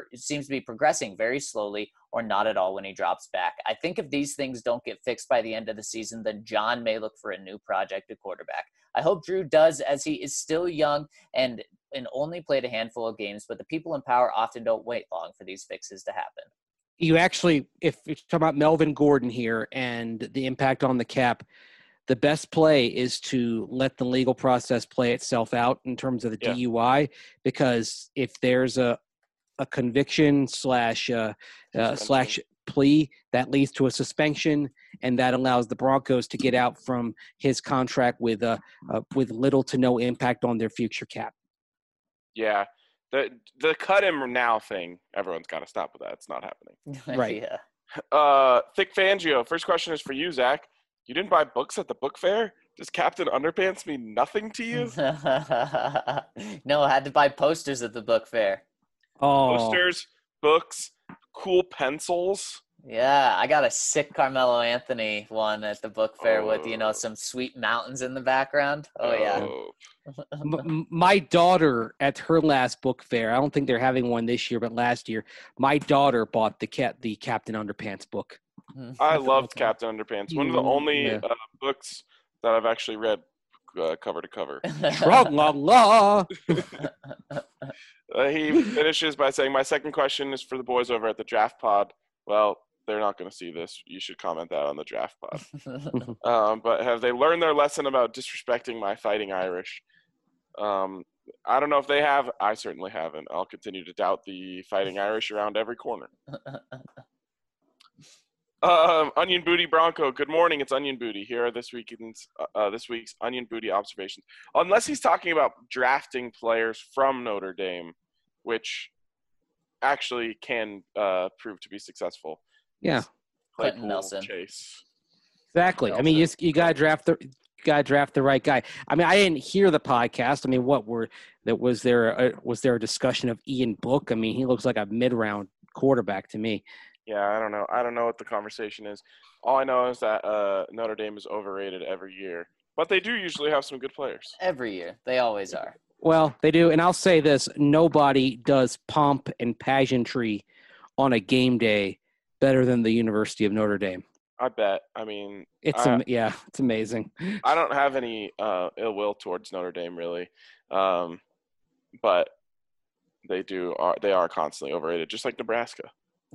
or not at all when he drops back. I think if these things don't get fixed by the end of the season, then John may look for a new project at quarterback. I hope Drew does, as he is still young and only played a handful of games, but the people in power often don't wait long for these fixes to happen. You actually, if you're talking about Melvin Gordon here and the impact on the cap, the best play is to let the legal process play itself out in terms of the DUI, because if there's a conviction slash plea, that leads to a suspension, and that allows the Broncos to get out from his contract with little to no impact on their future cap. Yeah, the cut him now thing, everyone's got to stop with that. It's not happening. Right. Yeah. Thick Fangio, first question is for you, Zach. You didn't buy books at the book fair? Does Captain Underpants mean nothing to you? No, I had to buy posters at the book fair. Oh. Posters, books, cool pencils. Yeah, I got a sick Carmelo Anthony one at the book fair with, some sweet mountains in the background. Oh, yeah. My daughter, at her last book fair, I don't think they're having one this year, but last year, my daughter bought the Captain Underpants book. I loved Captain Underpants. One of the only books that I've actually read cover to cover. Tra-la-la. He finishes by saying, my second question is for the boys over at the Draft Pod. Well, they're not going to see this. You should comment that on the Draft Pod. But have they learned their lesson about disrespecting my Fighting Irish? I don't know if they have. I certainly haven't. I'll continue to doubt the Fighting Irish around every corner. Onion Booty Bronco, good morning. It's Onion Booty. Here are this week's Onion Booty observations. Unless he's talking about drafting players from Notre Dame, which actually can prove to be successful. Yeah, Clinton Nelson. Chase. Exactly. Nelson. I mean, you gotta draft the right guy. I mean, I didn't hear the podcast. I mean, was there a discussion of Ian Book? I mean, he looks like a mid-round quarterback to me. Yeah, I don't know. I don't know what the conversation is. All I know is that Notre Dame is overrated every year. But they do usually have some good players. Every year. They always are. Well, they do. And I'll say this. Nobody does pomp and pageantry on a game day better than the University of Notre Dame. I bet. I mean, it's amazing. I don't have any ill will towards Notre Dame, really. But they are constantly overrated, just like Nebraska.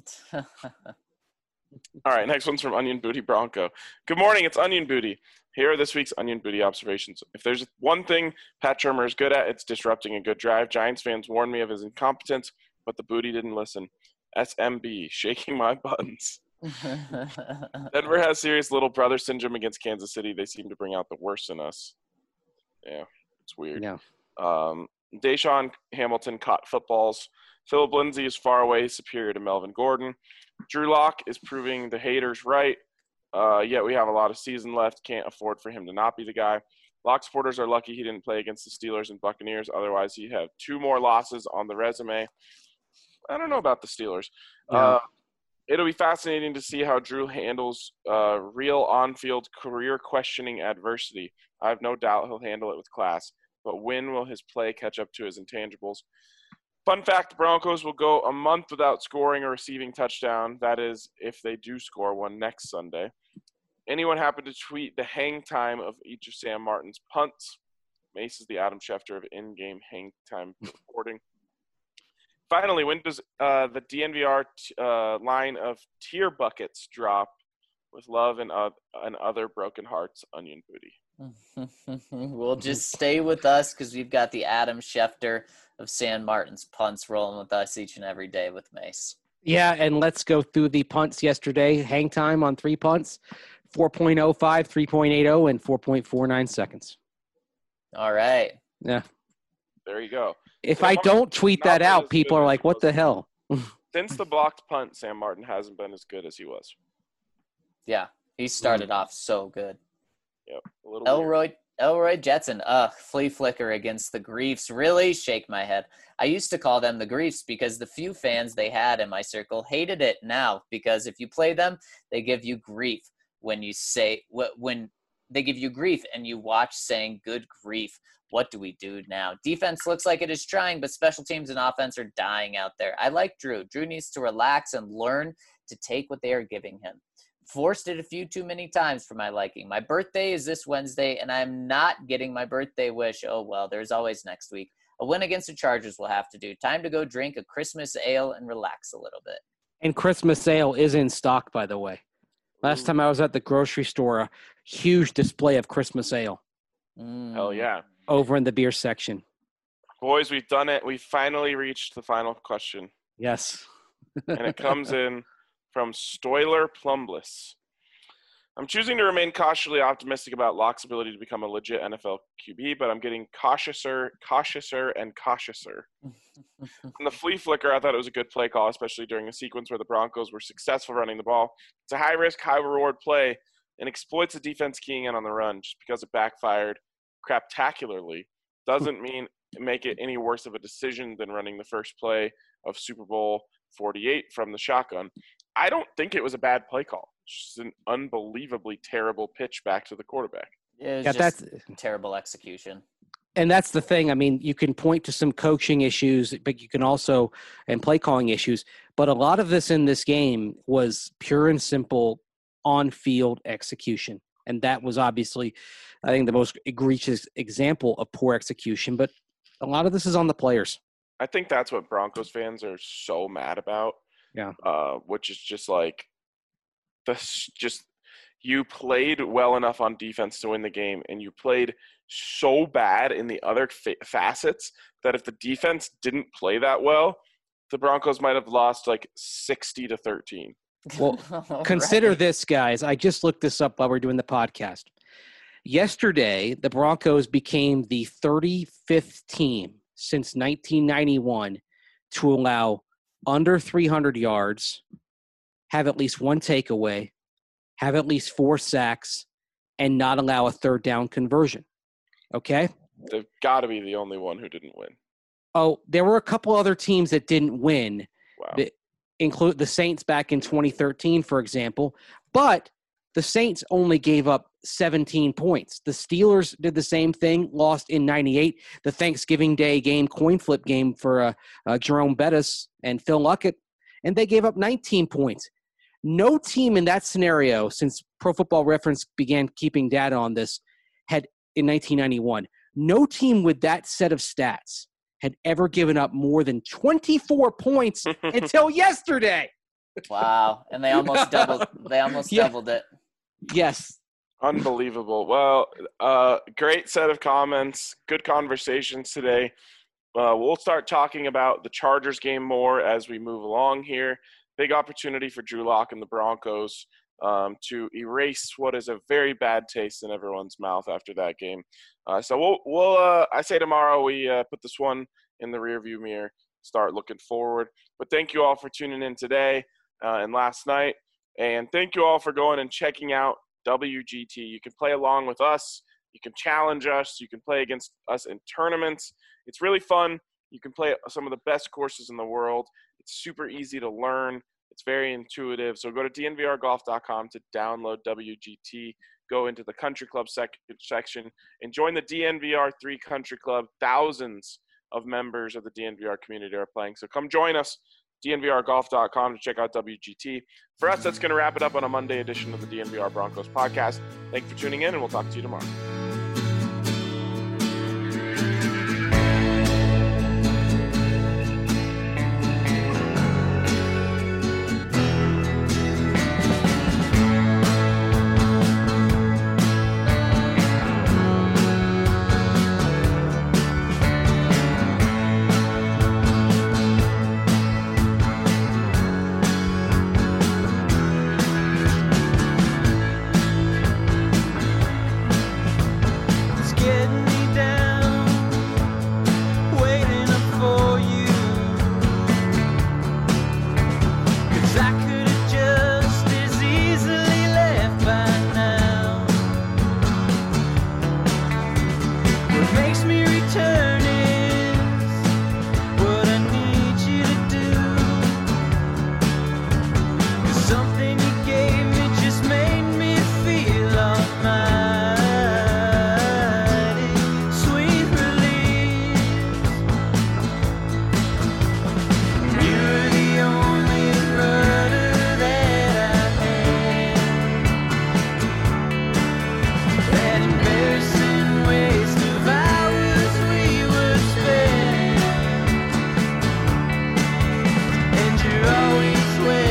All right, next one's from Onion Booty Bronco. Good morning, it's Onion Booty. Here are this week's Onion Booty observations. If there's one thing Pat Shurmur is good at, it's disrupting a good drive. Giants fans warned me of his incompetence, but the Booty didn't listen. SMB, shaking my buttons. Denver has serious little brother syndrome against Kansas City. They seem to bring out the worst in us. Yeah, it's weird. Yeah. Deshaun Hamilton caught footballs. Philip Lindsay is far away superior to Melvin Gordon. Drew Lock is proving the haters right. Yet we have a lot of season left. Can't afford for him to not be the guy. Lock supporters are lucky he didn't play against the Steelers and Buccaneers. Otherwise, he'd have 2 more losses on the resume. I don't know about the Steelers. Yeah. It'll be fascinating to see how Drew handles real on-field career-questioning adversity. I have no doubt he'll handle it with class. But when will his play catch up to his intangibles? Fun fact, the Broncos will go a month without scoring a receiving touchdown. That is, if they do score one next Sunday. Anyone happen to tweet the hang time of each of Sam Martin's punts? Mace is the Adam Schefter of in-game hang time reporting. Finally, when does the DNVR line of tier buckets drop with love and other broken hearts, onion booty? We'll just stay with us because we've got the Adam Schefter of Sam Martin's punts rolling with us each and every day with Mace. Yeah, and let's go through the punts yesterday. Hang time on 3 punts, 4.05, 3.80, and 4.49 seconds. All right. Yeah. There you go. If I don't tweet that out, people are like, what the hell? Since the blocked punt, Sam Martin hasn't been as good as he was. Yeah, he started off so good. Yep. A little weird. Elroy Jetson, flea flicker against the Griefs. Really shake my head. I used to call them the Griefs because the few fans they had in my circle hated it now because if you play them, they give you grief when they give you grief and you watch saying good grief. What do we do now? Defense looks like it is trying, but special teams and offense are dying out there. I like Drew. Drew needs to relax and learn to take what they are giving him. Forced it a few too many times for my liking. My birthday is this Wednesday, and I'm not getting my birthday wish. Oh, well, there's always next week. A win against the Chargers will have to do. Time to go drink a Christmas ale and relax a little bit. And Christmas ale is in stock, by the way. Last time I was at the grocery store, a huge display of Christmas ale. Hell yeah. Over in the beer section. Boys, we've done it. We finally reached the final question. Yes. And it comes in from Stoiler Plumbless. I'm choosing to remain cautiously optimistic about Locke's ability to become a legit NFL QB, but I'm getting cautiouser, and cautiouser. On the flea flicker, I thought it was a good play call, especially during a sequence where the Broncos were successful running the ball. It's a high-risk, high-reward play and exploits the defense keying in on the run. Just because it backfired craptacularly doesn't make it any worse of a decision than running the first play of Super Bowl 48 from the shotgun. I don't think it was a bad play call. It's just an unbelievably terrible pitch back to the quarterback. It was just terrible execution. And that's the thing. I mean, you can point to some coaching issues, but you can also – and play calling issues. But a lot of this in this game was pure and simple on-field execution. And that was obviously, I think, the most egregious example of poor execution. But a lot of this is on the players. I think that's what Broncos fans are so mad about. Yeah. Which is just like you played well enough on defense to win the game, and you played so bad in the other facets that if the defense didn't play that well, the Broncos might have lost like 60-13. Well, consider this, guys. I just looked this up while we're doing the podcast. Yesterday, the Broncos became the 35th team since 1991 to allow under 300 yards, have at least one takeaway, have at least 4 sacks, and not allow a third down conversion. Okay? They've got to be the only one who didn't win. Oh, there were a couple other teams that didn't win. Wow. That include the Saints back in 2013, for example. But the Saints only gave up 17 points. The Steelers did the same thing, lost in 98. The Thanksgiving Day game, coin flip game for Jerome Bettis and Phil Luckett, and they gave up 19 points. No team in that scenario, since Pro Football Reference began keeping data on this, had in 1991, no team with that set of stats had ever given up more than 24 points until yesterday. Wow. And they almost doubled doubled it. Yes. Unbelievable. Well, great set of comments. Good conversations today. We'll start talking about the Chargers game more as we move along here. Big opportunity for Drew Lock and the Broncos to erase what is a very bad taste in everyone's mouth after that game. So we'll I say tomorrow we put this one in the rearview mirror, start looking forward. But thank you all for tuning in today and last night. And thank you all for going and checking out WGT. You can play along with us You can challenge us. You can play against us in tournaments. It's really fun. You can play some of the best courses in the world. It's super easy to learn. It's very intuitive. So go to dnvrgolf.com to download WGT. Go into the country club section and join the DNVR3 Country Club. Thousands of members of the DNVR community are playing. So come join us, dnvrgolf.com, to check out WGT. For us, that's going to wrap it up on a Monday edition of the DNVR Broncos podcast. Thank you for tuning in, and we'll talk to you tomorrow. Always